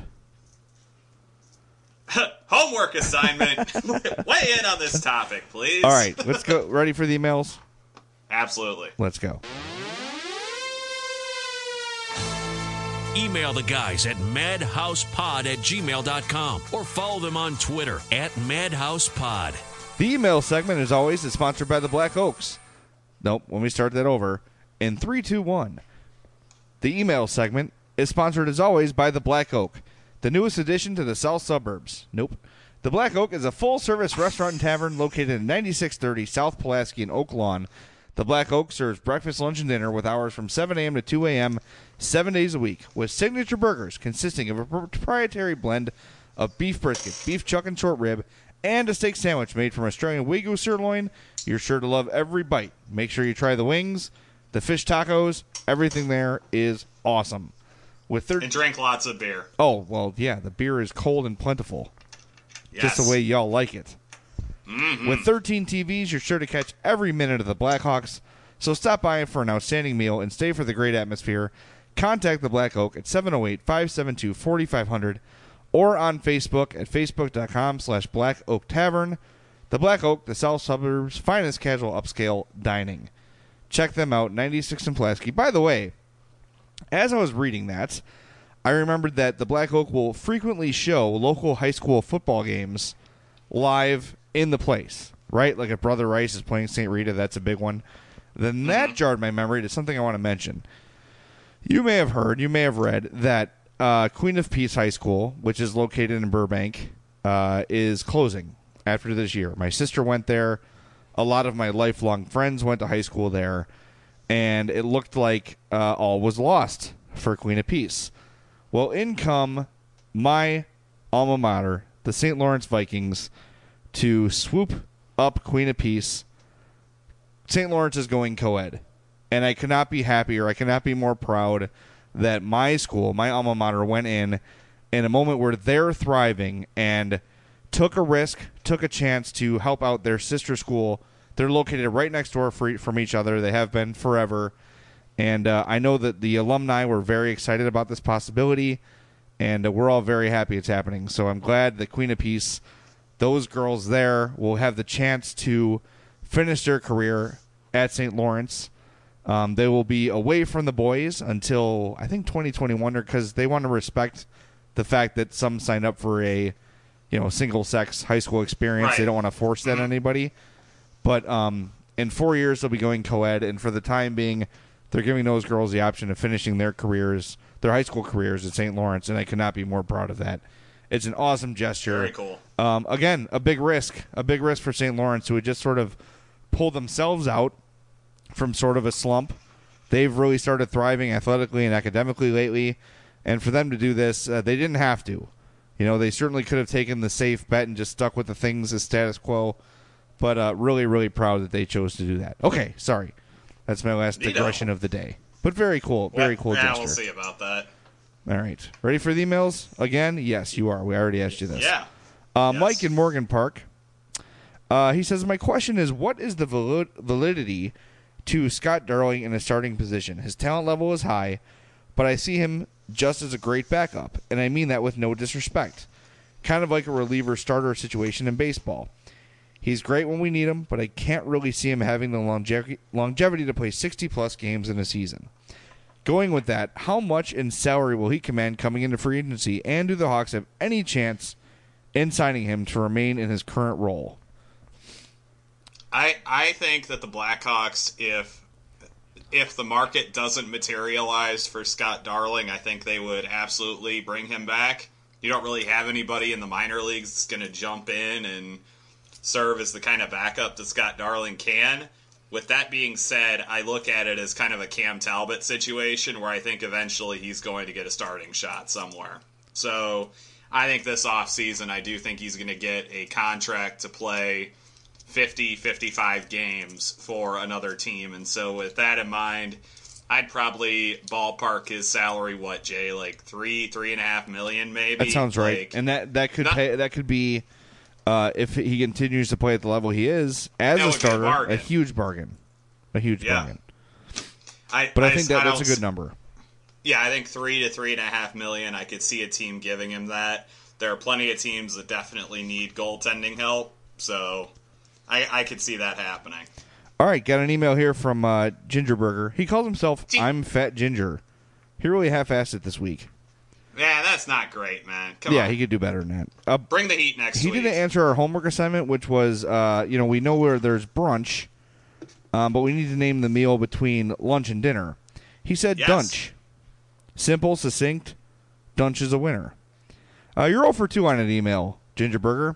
Speaker 7: Homework assignment. Weigh in on this topic, please.
Speaker 3: All right, let's go. Ready for the emails?
Speaker 7: Absolutely.
Speaker 3: Let's go.
Speaker 4: Email the guys at madhousepod@gmail.com or follow them on Twitter @madhousepod.
Speaker 3: The email segment, as always, is sponsored by the Black Oaks. Nope, let me start that over. In 3, 2, 1. The email segment is sponsored, as always, by the Black Oak, the newest addition to the south suburbs. Nope. The Black Oak is a full-service restaurant and tavern located in 9630 South Pulaski in Oak Lawn. The Black Oak serves breakfast, lunch, and dinner with hours from 7 a.m. to 2 a.m. 7 days a week, with signature burgers consisting of a proprietary blend of beef brisket, beef chuck and short rib, and a steak sandwich made from Australian Wagyu sirloin. You're sure to love every bite. Make sure you try the wings, the fish tacos. Everything there is awesome.
Speaker 7: And drink lots of beer.
Speaker 3: Oh, well, yeah, the beer is cold and plentiful.
Speaker 7: Yes.
Speaker 3: Just the way y'all like it.
Speaker 7: Mm-hmm.
Speaker 3: With 13 TVs, you're sure to catch every minute of the Blackhawks. So stop by for an outstanding meal and stay for the great atmosphere. Contact the Black Oak at 708-572-4500 or on Facebook at facebook.com/Black Oak Tavern. The Black Oak, the South Suburbs' finest casual upscale dining. Check them out, 96 in Pulaski. By the way, as I was reading that, I remembered that the Black Oak will frequently show local high school football games live in the place, right? Like if Brother Rice is playing St. Rita, that's a big one. Then that jarred my memory to something I want to mention. You may have heard, you may have read that Queen of Peace High School, which is located in Burbank, is closing after this year. My sister went there. A lot of my lifelong friends went to high school there, and it looked like all was lost for Queen of Peace. Well, in come my alma mater, the St. Lawrence Vikings, to swoop up Queen of Peace. St. Lawrence is going co-ed, and I cannot be happier. I cannot be more proud that my school, my alma mater, went in a moment where they're thriving and took a risk, took a chance to help out their sister school. They're located right next door from each other. They have been forever. And I know that the alumni were very excited about this possibility, and we're all very happy it's happening. So I'm glad that Queen of Peace, those girls there, will have the chance to finish their career at St. Lawrence. They will be away from the boys until, I think, 2021, because they want to respect the fact that some signed up for a single-sex high school experience. Right. They don't want to force that on anybody. But in 4 years, they'll be going co-ed, and for the time being, they're giving those girls the option of finishing their careers, their high school careers at St. Lawrence, and I could not be more proud of that. It's an awesome gesture.
Speaker 7: Very cool.
Speaker 3: Again, a big risk for St. Lawrence, who had just sort of pulled themselves out from sort of a slump. They've really started thriving athletically and academically lately, and for them to do this, they didn't have to. They certainly could have taken the safe bet and just stuck with the things as status quo, but really, really proud that they chose to do that. Okay, sorry. That's my last digression of the day. But very cool. Very cool gesture.
Speaker 7: Yeah, we'll see about that.
Speaker 3: All right. Ready for the emails again? Yes, you are. We already asked you this.
Speaker 7: Yeah.
Speaker 3: Yes. Mike in Morgan Park. He says, my question is, what is the validity to Scott Darling in a starting position? His talent level is high, but I see him just as a great backup, and I mean that with no disrespect. Kind of like a reliever starter situation in baseball. He's great when we need him, but I can't really see him having the longevity to play 60-plus games in a season. Going with that, how much in salary will he command coming into free agency, and do the Hawks have any chance in signing him to remain in his current role?
Speaker 7: I think that the Blackhawks, if the market doesn't materialize for Scott Darling, I think they would absolutely bring him back. You don't really have anybody in the minor leagues that's going to jump in and serve as the kind of backup that Scott Darling can. With that being said, I look at it as kind of a Cam Talbot situation where I think eventually he's going to get a starting shot somewhere. So I think this offseason, I do think he's going to get a contract to play 50, 55 games for another team. And so with that in mind, I'd probably ballpark his salary, what, Jay, like $3.5 million maybe?
Speaker 3: That sounds right. And that could be if he continues to play at the level he is as a starter, a huge bargain. A huge bargain. I think that's a good number.
Speaker 7: Yeah, I think $3 to $3.5 million. I could see a team giving him that. There are plenty of teams that definitely need goaltending help, so I could see that happening.
Speaker 3: All right, got an email here from Gingerburger. He calls himself I'm Fat Ginger. He really half-assed it this week.
Speaker 7: Yeah, that's not great, man. Come on.
Speaker 3: Yeah, he could do better than that.
Speaker 7: Bring the heat next week.
Speaker 3: He didn't answer our homework assignment, which was, we know where there's brunch, but we need to name the meal between lunch and dinner. He said Dunch. Simple, succinct. Dunch is a winner. You're 0 for 2 on an email, Gingerburger.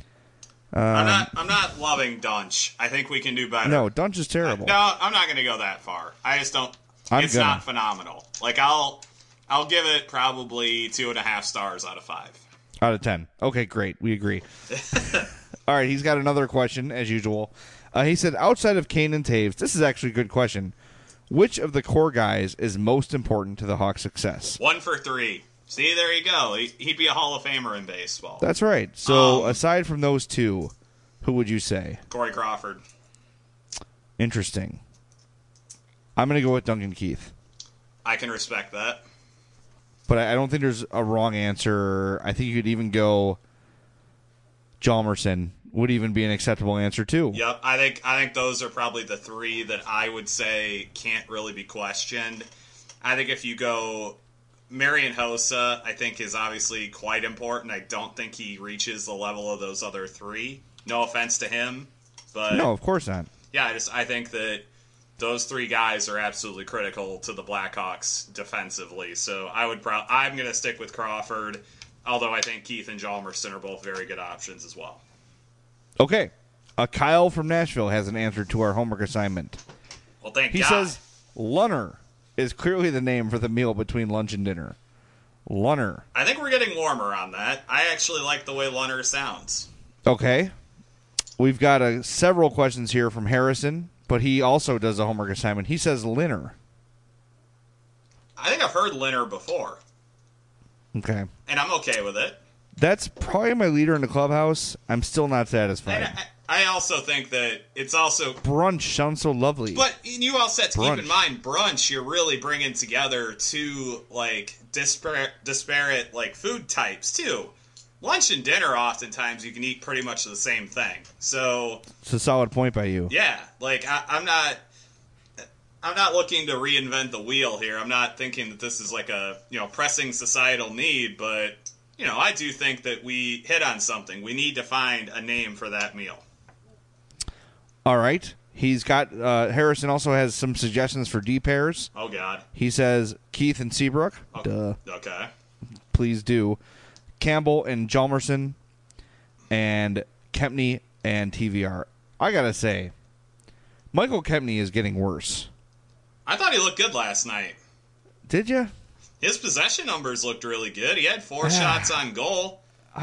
Speaker 7: I'm not loving Dunch. I think we can do better.
Speaker 3: No, Dunch is terrible.
Speaker 7: No, I'm not going to go that far. I just don't. It's not phenomenal. Like I'll give it probably 2.5 stars out of 5.
Speaker 3: Out of 10. Okay, great. We agree. All right, he's got another question as usual. He said, outside of Kane and Taves, this is actually a good question. Which of the core guys is most important to the Hawks' success?
Speaker 7: 1 for 3. See, there you go. He'd be a Hall of Famer in baseball.
Speaker 3: That's right. So, aside from those two, who would you say?
Speaker 7: Corey Crawford.
Speaker 3: Interesting. I'm going to go with Duncan Keith.
Speaker 7: I can respect that.
Speaker 3: But I don't think there's a wrong answer. I think you could even go Hjalmarsson would even be an acceptable answer, too.
Speaker 7: Yep. I think those are probably the 3 that I would say can't really be questioned. I think if you go Marian Hossa, I think is obviously quite important. I don't think he reaches the level of those other 3. No offense to him, but
Speaker 3: no, of course not.
Speaker 7: Yeah, I think that those 3 guys are absolutely critical to the Blackhawks defensively. So I'm going to stick with Crawford, although I think Keith and Hjalmarsson are both very good options as well.
Speaker 3: Okay. Kyle from Nashville has an answer to our homework assignment.
Speaker 7: Well, thank God.
Speaker 3: He says Lunner is clearly the name for the meal between lunch and dinner. Lunner.
Speaker 7: I think we're getting warmer on that. I actually like the way Lunner sounds.
Speaker 3: Okay. We've got several questions here from Harrison, but he also does a homework assignment. He says Linner.
Speaker 7: I think I've heard Linner before.
Speaker 3: Okay.
Speaker 7: And I'm okay with it.
Speaker 3: That's probably my leader in the clubhouse. I'm still not satisfied.
Speaker 7: And I also think that it's also...
Speaker 3: Brunch sounds so lovely.
Speaker 7: But you also have to keep in mind, brunch, you're really bringing together 2, disparate, food types, too. Lunch and dinner, oftentimes, you can eat pretty much the same thing. So... It's
Speaker 3: a solid point by you.
Speaker 7: Yeah. I'm not looking to reinvent the wheel here. I'm not thinking that this is a, pressing societal need, but, I do think that we hit on something. We need to find a name for that meal.
Speaker 3: All right. He's got Harrison also has some suggestions for D pairs.
Speaker 7: Oh God.
Speaker 3: He says Keith and Seabrook.
Speaker 7: Duh. Okay.
Speaker 3: Please do. Campbell and Hjalmarsson and Kempny and TVR. I gotta say, Michael Kempny is getting worse.
Speaker 7: I thought he looked good last night.
Speaker 3: Did you?
Speaker 7: His possession numbers looked really good. He had 4 shots on goal.
Speaker 3: I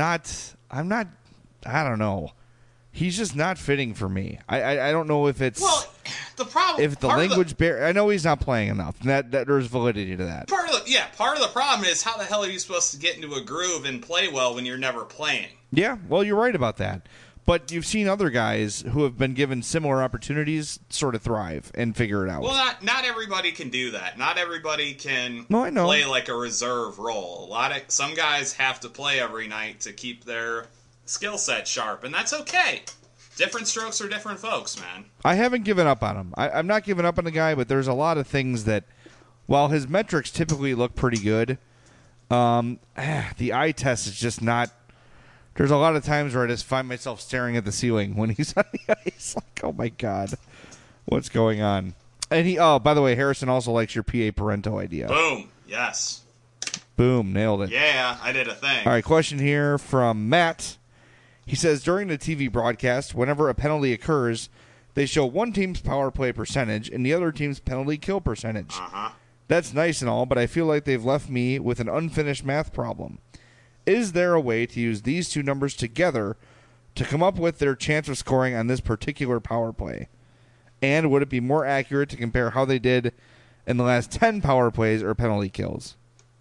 Speaker 3: don't know. He's just not fitting for me. I don't know if it's...
Speaker 7: Well, the problem...
Speaker 3: If the language barrier... I know he's not playing enough. That there's validity to that.
Speaker 7: Part of the problem is how the hell are you supposed to get into a groove and play well when you're never playing?
Speaker 3: Yeah, well, you're right about that. But you've seen other guys who have been given similar opportunities sort of thrive and figure it out.
Speaker 7: Well, not everybody can do that. Not everybody can
Speaker 3: I know.
Speaker 7: play like a reserve role. Some guys have to play every night to keep their skill set sharp, and that's okay. Different strokes for different folks, man.
Speaker 3: I haven't given up on him. I'm not giving up on the guy, but there's a lot of things that, while his metrics typically look pretty good, the eye test is just not... There's a lot of times where I just find myself staring at the ceiling when he's on the ice. Like, oh my God, what's going on? And by the way, Harrison also likes your PA Parento idea.
Speaker 7: Boom. Yes.
Speaker 3: Boom. Nailed it.
Speaker 7: Yeah, I did a thing.
Speaker 3: All right, question here from Matt. He says, during the TV broadcast, whenever a penalty occurs, they show one team's power play percentage and the other team's penalty kill percentage.
Speaker 7: Uh-huh.
Speaker 3: That's nice and all, but I feel like they've left me with an unfinished math problem. Is there a way to use these two numbers together to come up with their chance of scoring on this particular power play? And would it be more accurate to compare how they did in the last 10 power plays or penalty kills?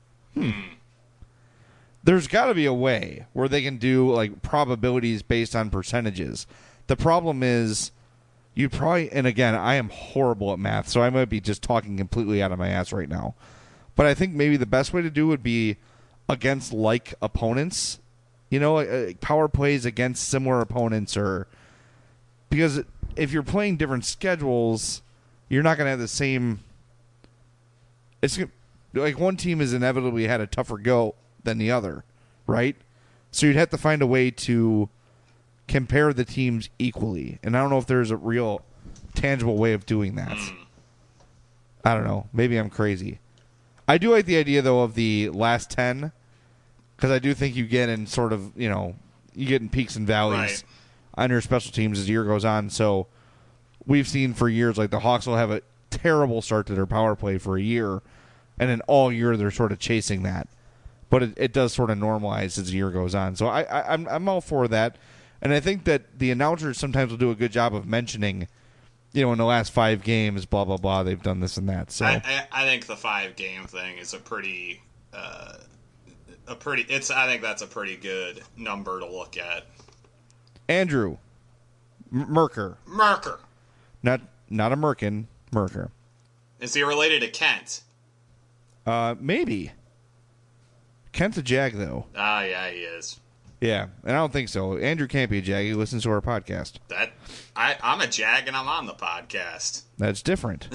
Speaker 3: There's got to be a way where they can do like probabilities based on percentages. The problem is you probably, and again, I am horrible at math, so I might be just talking completely out of my ass right now. But I think maybe the best way to do would be against like opponents, power plays against similar opponents, or because if you're playing different schedules, you're not going to have the same. It's like one team has inevitably had a tougher go than the other, right? So you'd have to find a way to compare the teams equally, and I don't know if there's a real tangible way of doing that. I don't know. Maybe I'm crazy. I do like the idea, though, of the last 10, because I do think you get in sort of, you get in peaks and valleys on your special teams as the year goes on. So we've seen for years, like the Hawks will have a terrible start to their power play for a year, and then all year they're sort of chasing that. But it does sort of normalize as the year goes on. So I'm all for that. And I think that the announcers sometimes will do a good job of mentioning, in the last 5 games, blah, blah, blah, they've done this and that. So
Speaker 7: I think the 5-game thing is I think that's a pretty good number to look at.
Speaker 3: Andrew. Merker. Not a Merkin. Merker.
Speaker 7: Is he related to Kent?
Speaker 3: Maybe. Kent's a Jag, though.
Speaker 7: Yeah, he is.
Speaker 3: Yeah, and I don't think so. Andrew can't be a Jag. He listens to our podcast.
Speaker 7: I'm a Jag and I'm on the podcast.
Speaker 3: That's different.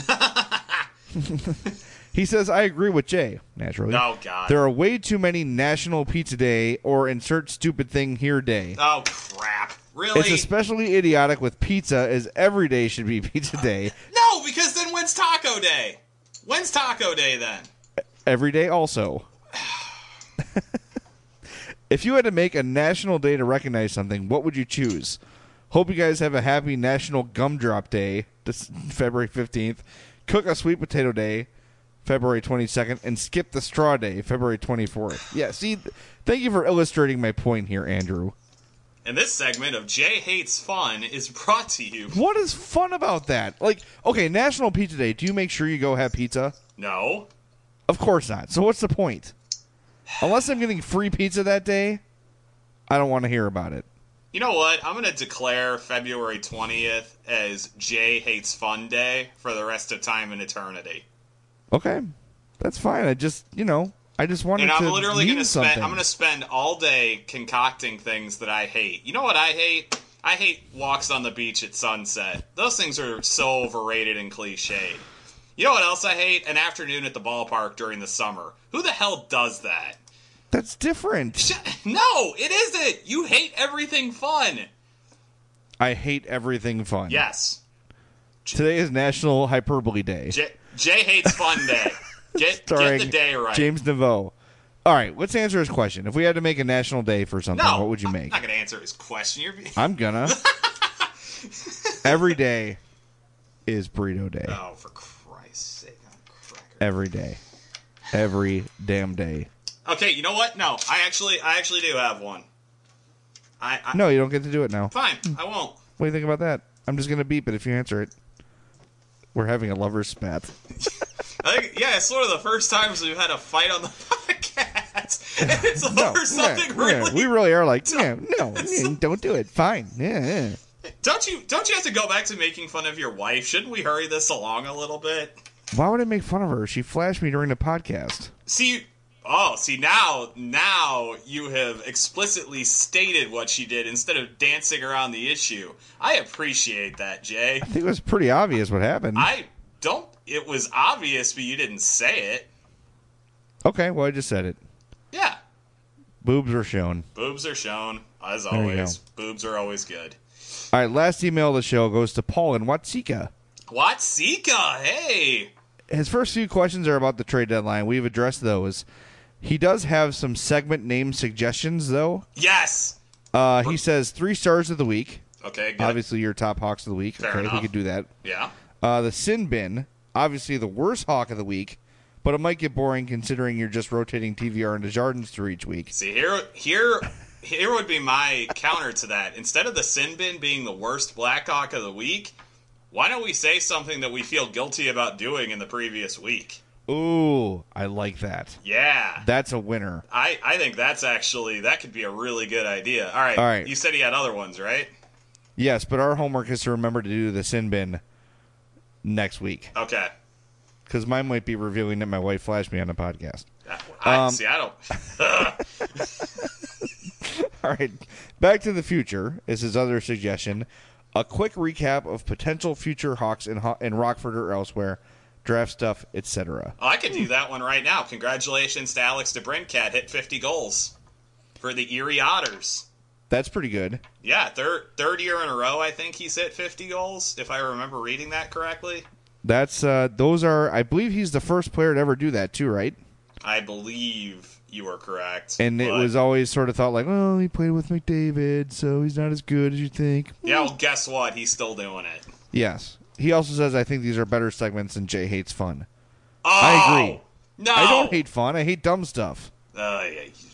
Speaker 3: He says, I agree with Jay, naturally.
Speaker 7: Oh, God.
Speaker 3: There are way too many National Pizza Day or insert stupid thing here day.
Speaker 7: Oh, crap. Really?
Speaker 3: It's especially idiotic with pizza, as every day should be pizza day.
Speaker 7: No, because then when's Taco Day? When's Taco Day then?
Speaker 3: Every day also. If you had to make a national day to recognize something, what would you choose? Hope you guys have a happy National Gumdrop Day, this February 15th. Cook a sweet potato day, February 22nd. And skip the straw day, February 24th. Yeah, see, thank you for illustrating my point here, Andrew.
Speaker 7: And this segment of Jay Hates Fun is brought to you.
Speaker 3: What is fun about that? Like, okay, National Pizza Day, do you make sure you go have pizza?
Speaker 7: No.
Speaker 3: Of course not. So what's the point? Unless I'm getting free pizza that day, I don't want to hear about it.
Speaker 7: You know what? I'm going to declare February 20th as Jay Hates Fun Day for the rest of time and eternity.
Speaker 3: Okay. That's fine. I just wanted
Speaker 7: and I'm
Speaker 3: to
Speaker 7: literally
Speaker 3: going to
Speaker 7: I'm going to spend all day concocting things that I hate. You know what I hate? I hate walks on the beach at sunset. Those things are so overrated and cliched. You know what else I hate? An afternoon at the ballpark during the summer. Who the hell does that?
Speaker 3: That's different.
Speaker 7: No, it isn't. You hate everything fun.
Speaker 3: I hate everything fun.
Speaker 7: Yes.
Speaker 3: Today is National Hyperbole Day.
Speaker 7: Jay Hates Fun Day. Get the day right.
Speaker 3: James Naveau. All right, let's answer his question. If we had to make a national day for something, what would you make?
Speaker 7: I'm not going to answer his question.
Speaker 3: I'm going to. Every day is Burrito Day.
Speaker 7: Oh, for Christ's Steak on a cracker.
Speaker 3: Every day. Every damn day.
Speaker 7: Okay, you know what? No, I actually do have one.
Speaker 3: No, you don't get to do it now.
Speaker 7: Fine, I won't.
Speaker 3: What do you think about that? I'm just going to beep it if you answer it. We're having a lover's spat.
Speaker 7: I think, yeah, it's sort of the first times we've had a fight on the podcast. And it's over something really.
Speaker 3: We really are like, don't do it. Fine. Yeah.
Speaker 7: Don't you have to go back to making fun of your wife? Shouldn't we hurry this along a little bit?
Speaker 3: Why would I make fun of her? She flashed me during the podcast.
Speaker 7: See, now you have explicitly stated what she did instead of dancing around the issue. I appreciate that, Jay.
Speaker 3: I think it was pretty obvious what happened.
Speaker 7: It was obvious, but you didn't say it.
Speaker 3: Okay, well, I just said it.
Speaker 7: Yeah.
Speaker 3: Boobs are shown.
Speaker 7: Boobs are shown, as always. Boobs are always good.
Speaker 3: All right, last email of the show goes to Paul in Watsika.
Speaker 7: Watsika, hey!
Speaker 3: His first few questions are about the trade deadline. We've addressed those. He does have some segment name suggestions, though.
Speaker 7: Yes!
Speaker 3: He says 3 stars of the week.
Speaker 7: Okay, good.
Speaker 3: Obviously, your top Hawks of the week.
Speaker 7: Fair
Speaker 3: okay,
Speaker 7: enough.
Speaker 3: we could do that.
Speaker 7: Yeah.
Speaker 3: The Sin Bin, obviously the worst Hawk of the week, but it might get boring considering you're just rotating TVR and Desjardins through each week.
Speaker 7: See, here would be my counter to that. Instead of the Sin Bin being the worst Blackhawk of the week, why don't we say something that we feel guilty about doing in the previous week?
Speaker 3: Ooh, I like that.
Speaker 7: Yeah.
Speaker 3: That's a winner.
Speaker 7: I think that could be a really good idea. All right. You said he had other ones, right?
Speaker 3: Yes, but our homework is to remember to do the Sin Bin next week.
Speaker 7: Okay.
Speaker 3: Because mine might be revealing that my wife flashed me on the podcast.
Speaker 7: I don't...
Speaker 3: All right. Back to the Future is his other suggestion. A quick recap of potential future Hawks in Rockford or elsewhere, draft stuff, etc.
Speaker 7: Oh, I could do that one right now. Congratulations to Alex DeBrincat. Hit 50 goals for the Erie Otters.
Speaker 3: That's pretty good.
Speaker 7: Yeah, third year in a row, I think he's hit 50 goals, if I remember reading that correctly.
Speaker 3: That's those are. I believe he's the first player to ever do that too, right?
Speaker 7: I believe you are correct.
Speaker 3: And it was always sort of thought like, well, he played with McDavid, so he's not as good as you think.
Speaker 7: Yeah, well, guess what? He's still doing it.
Speaker 3: Yes. He also says, I think these are better segments than Jay Hates Fun.
Speaker 7: Oh,
Speaker 3: I agree.
Speaker 7: No,
Speaker 3: I don't hate fun. I hate dumb stuff.
Speaker 7: Yeah.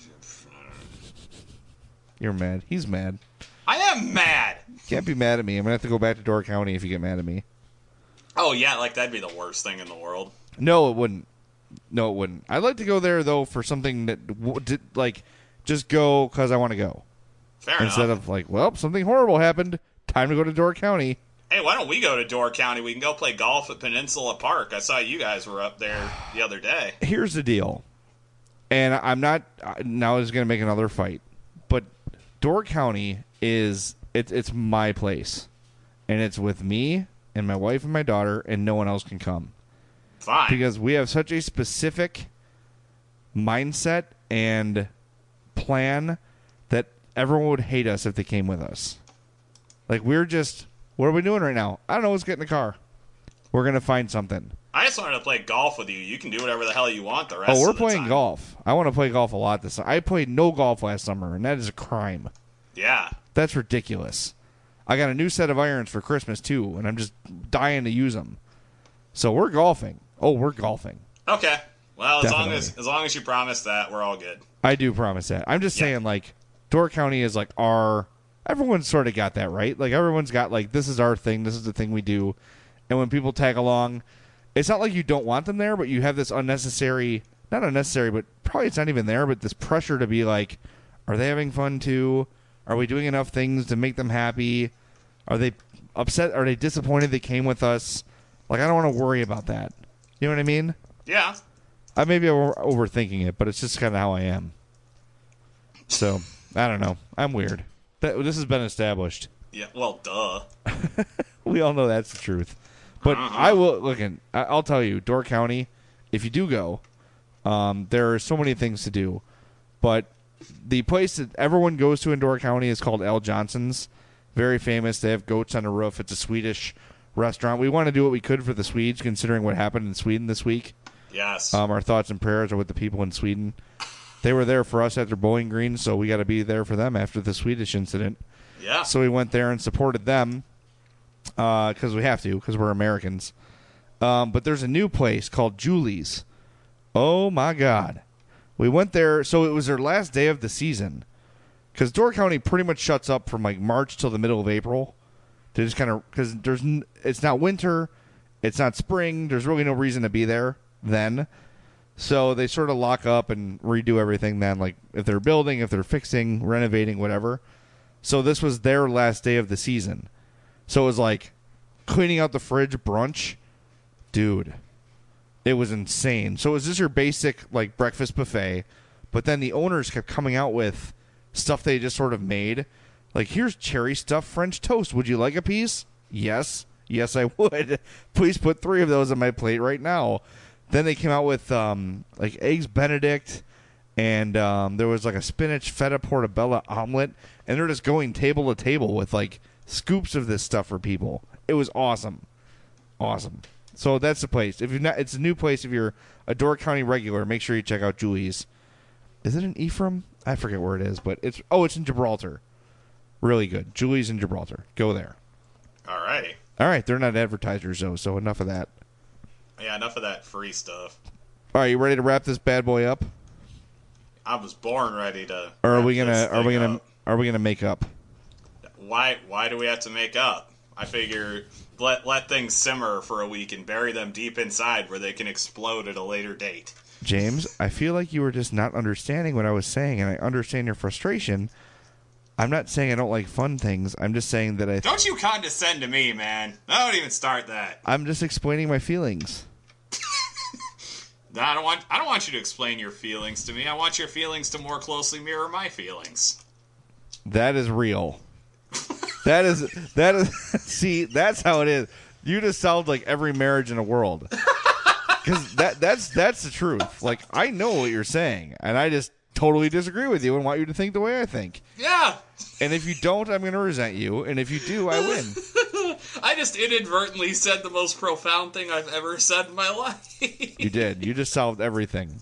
Speaker 3: You're mad. He's mad.
Speaker 7: I am mad.
Speaker 3: Can't be mad at me. I'm going to have to go back to Door County if you get mad at me.
Speaker 7: Oh, yeah, like that'd be the worst thing in the world.
Speaker 3: No, it wouldn't. No, it wouldn't. I'd like to go there, though, for something that, just go because I want to go.
Speaker 7: Fair enough.
Speaker 3: Instead of, well, something horrible happened. Time to go to Door County.
Speaker 7: Hey, why don't we go to Door County? We can go play golf at Peninsula Park. I saw you guys were up there the other day.
Speaker 3: Here's the deal. And I'm not, now is going to make another fight. But Door County is, it's my place. And it's with me and my wife and my daughter, and no one else can come.
Speaker 7: Fine.
Speaker 3: Because we have such a specific mindset and plan that everyone would hate us if they came with us. We're just, what are we doing right now? I don't know. Let's get in the car. We're going to find something.
Speaker 7: I just wanted to play golf with you. You can do whatever the hell you want the rest of the time.
Speaker 3: We're playing golf. I want to play golf a lot this summer. I played no golf last summer, and that is a crime.
Speaker 7: Yeah.
Speaker 3: That's ridiculous. I got a new set of irons for Christmas, too, and I'm just dying to use them. So we're golfing. Oh, we're golfing.
Speaker 7: Okay. Well,
Speaker 3: Definitely.
Speaker 7: as long as you promise that, we're all good.
Speaker 3: I do promise that. I'm just saying, Door County is our... Everyone's sort of got that, right? Everyone's got, this is our thing. This is the thing we do. And when people tag along, it's not like you don't want them there, but you have this unnecessary... Not unnecessary, but probably it's not even there, but this pressure to be are they having fun, too? Are we doing enough things to make them happy? Are they upset? Are they disappointed they came with us? I don't want to worry about that. You know what I mean?
Speaker 7: Yeah.
Speaker 3: I may be overthinking it, but it's just kind of how I am. So, I don't know. I'm weird. This has been established.
Speaker 7: Yeah, well, duh.
Speaker 3: We all know that's the truth. But I will, I'll tell you, Door County, if you do go, there are so many things to do. But the place that everyone goes to in Door County is called Al Johnson's. Very famous. They have goats on the roof. It's a Swedish restaurant. We want to do what we could for the Swedes, considering what happened in Sweden this week.
Speaker 7: Yes.
Speaker 3: Our thoughts and prayers are with the people in Sweden. They were there for us after Bowling Green, so we got to be there for them after the Swedish incident.
Speaker 7: Yeah.
Speaker 3: So we went there and supported them because we have to, because we're Americans. But there's a new place called Julie's. Oh, my God. We went there. So it was their last day of the season. Because Door County pretty much shuts up from like March till the middle of April. They just kind of, because it's not winter, it's not spring. There's really no reason to be there then. So they sort of lock up and redo everything then, like if they're building, if they're fixing, renovating, whatever. So this was their last day of the season. So it was like cleaning out the fridge brunch. Dude, it was insane. So it was just your basic like breakfast buffet, but then the owners kept coming out with stuff they just sort of made. Like, here's cherry stuffed French toast. Would you like a piece? Yes. Yes, I would. Please put 3 of those on my plate right now. Then they came out with like eggs Benedict, and there was like a spinach feta portobello omelet, and they're just going table to table with like scoops of this stuff for people. It was awesome. Awesome. So that's the place. If you're not, it's a new place. If you're a Door County regular, make sure you check out Julie's. Is it in Ephraim? I forget where it is, but it's in Gibraltar. Really good. Julie's in Gibraltar. Go there.
Speaker 7: All right.
Speaker 3: All right. They're not advertisers though, so enough of that.
Speaker 7: Yeah, enough of that free stuff.
Speaker 3: All right, you ready to wrap this bad boy up?
Speaker 7: I was born ready to.
Speaker 3: Or are we gonna make up?
Speaker 7: Why do we have to make up? I figure let things simmer for a week and bury them deep inside where they can explode at a later date.
Speaker 3: James, I feel like you were just not understanding what I was saying, and I understand your frustration. I'm not saying I don't like fun things. I'm just saying that
Speaker 7: Don't you condescend to me, man. Don't even start that.
Speaker 3: I'm just explaining my feelings.
Speaker 7: No, I don't want you to explain your feelings to me. I want your feelings to more closely mirror my feelings.
Speaker 3: That is real. That is see, that's how it is. You just sound like every marriage in the world. Because that's the truth. Like, I know what you're saying, and I just totally disagree with you and want you to think the way I think.
Speaker 7: Yeah.
Speaker 3: And if you don't, I'm going to resent you, and if you do, I win.
Speaker 7: I just inadvertently said the most profound thing I've ever said in my life.
Speaker 3: You did. You just solved everything.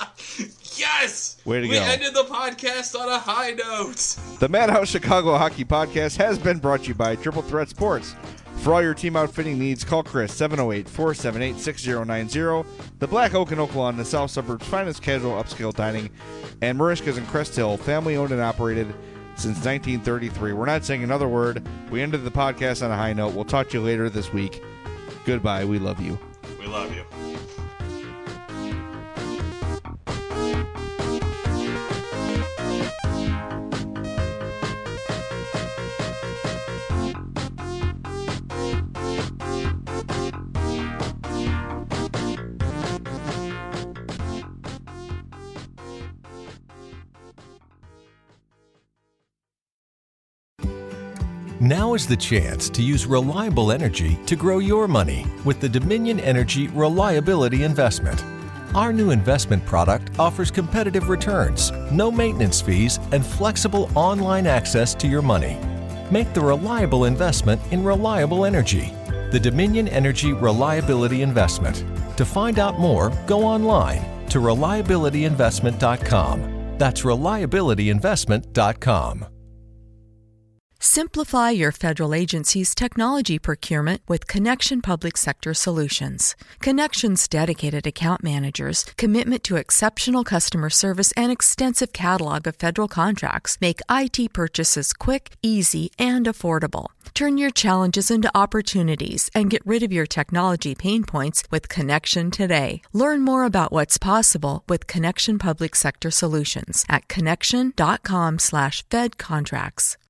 Speaker 7: Yes!
Speaker 3: Way to go.
Speaker 7: We ended the podcast on a high note.
Speaker 3: The Madhouse Chicago Hockey Podcast has been brought to you by Triple Threat Sports. For all your team outfitting needs, call Chris, 708-478-6090. The Black Oak in Oaklawn, the South Suburbs' finest casual upscale dining, and Marishka's in Crest Hill, family owned and operated since 1933. We're not saying another word. We ended the podcast on a high note. We'll talk to you later this week. Goodbye. We love you.
Speaker 7: We love you.
Speaker 8: Now is the chance to use reliable energy to grow your money with the Dominion Energy Reliability Investment. Our new investment product offers competitive returns, no maintenance fees, and flexible online access to your money. Make the reliable investment in reliable energy. The Dominion Energy Reliability Investment. To find out more, go online to reliabilityinvestment.com. That's reliabilityinvestment.com.
Speaker 2: Simplify your federal agency's technology procurement with Connection Public Sector Solutions. Connection's dedicated account managers, commitment to exceptional customer service, and extensive catalog of federal contracts make IT purchases quick, easy, and affordable. Turn your challenges into opportunities and get rid of your technology pain points with Connection today. Learn more about what's possible with Connection Public Sector Solutions at connection.com/fedcontracts.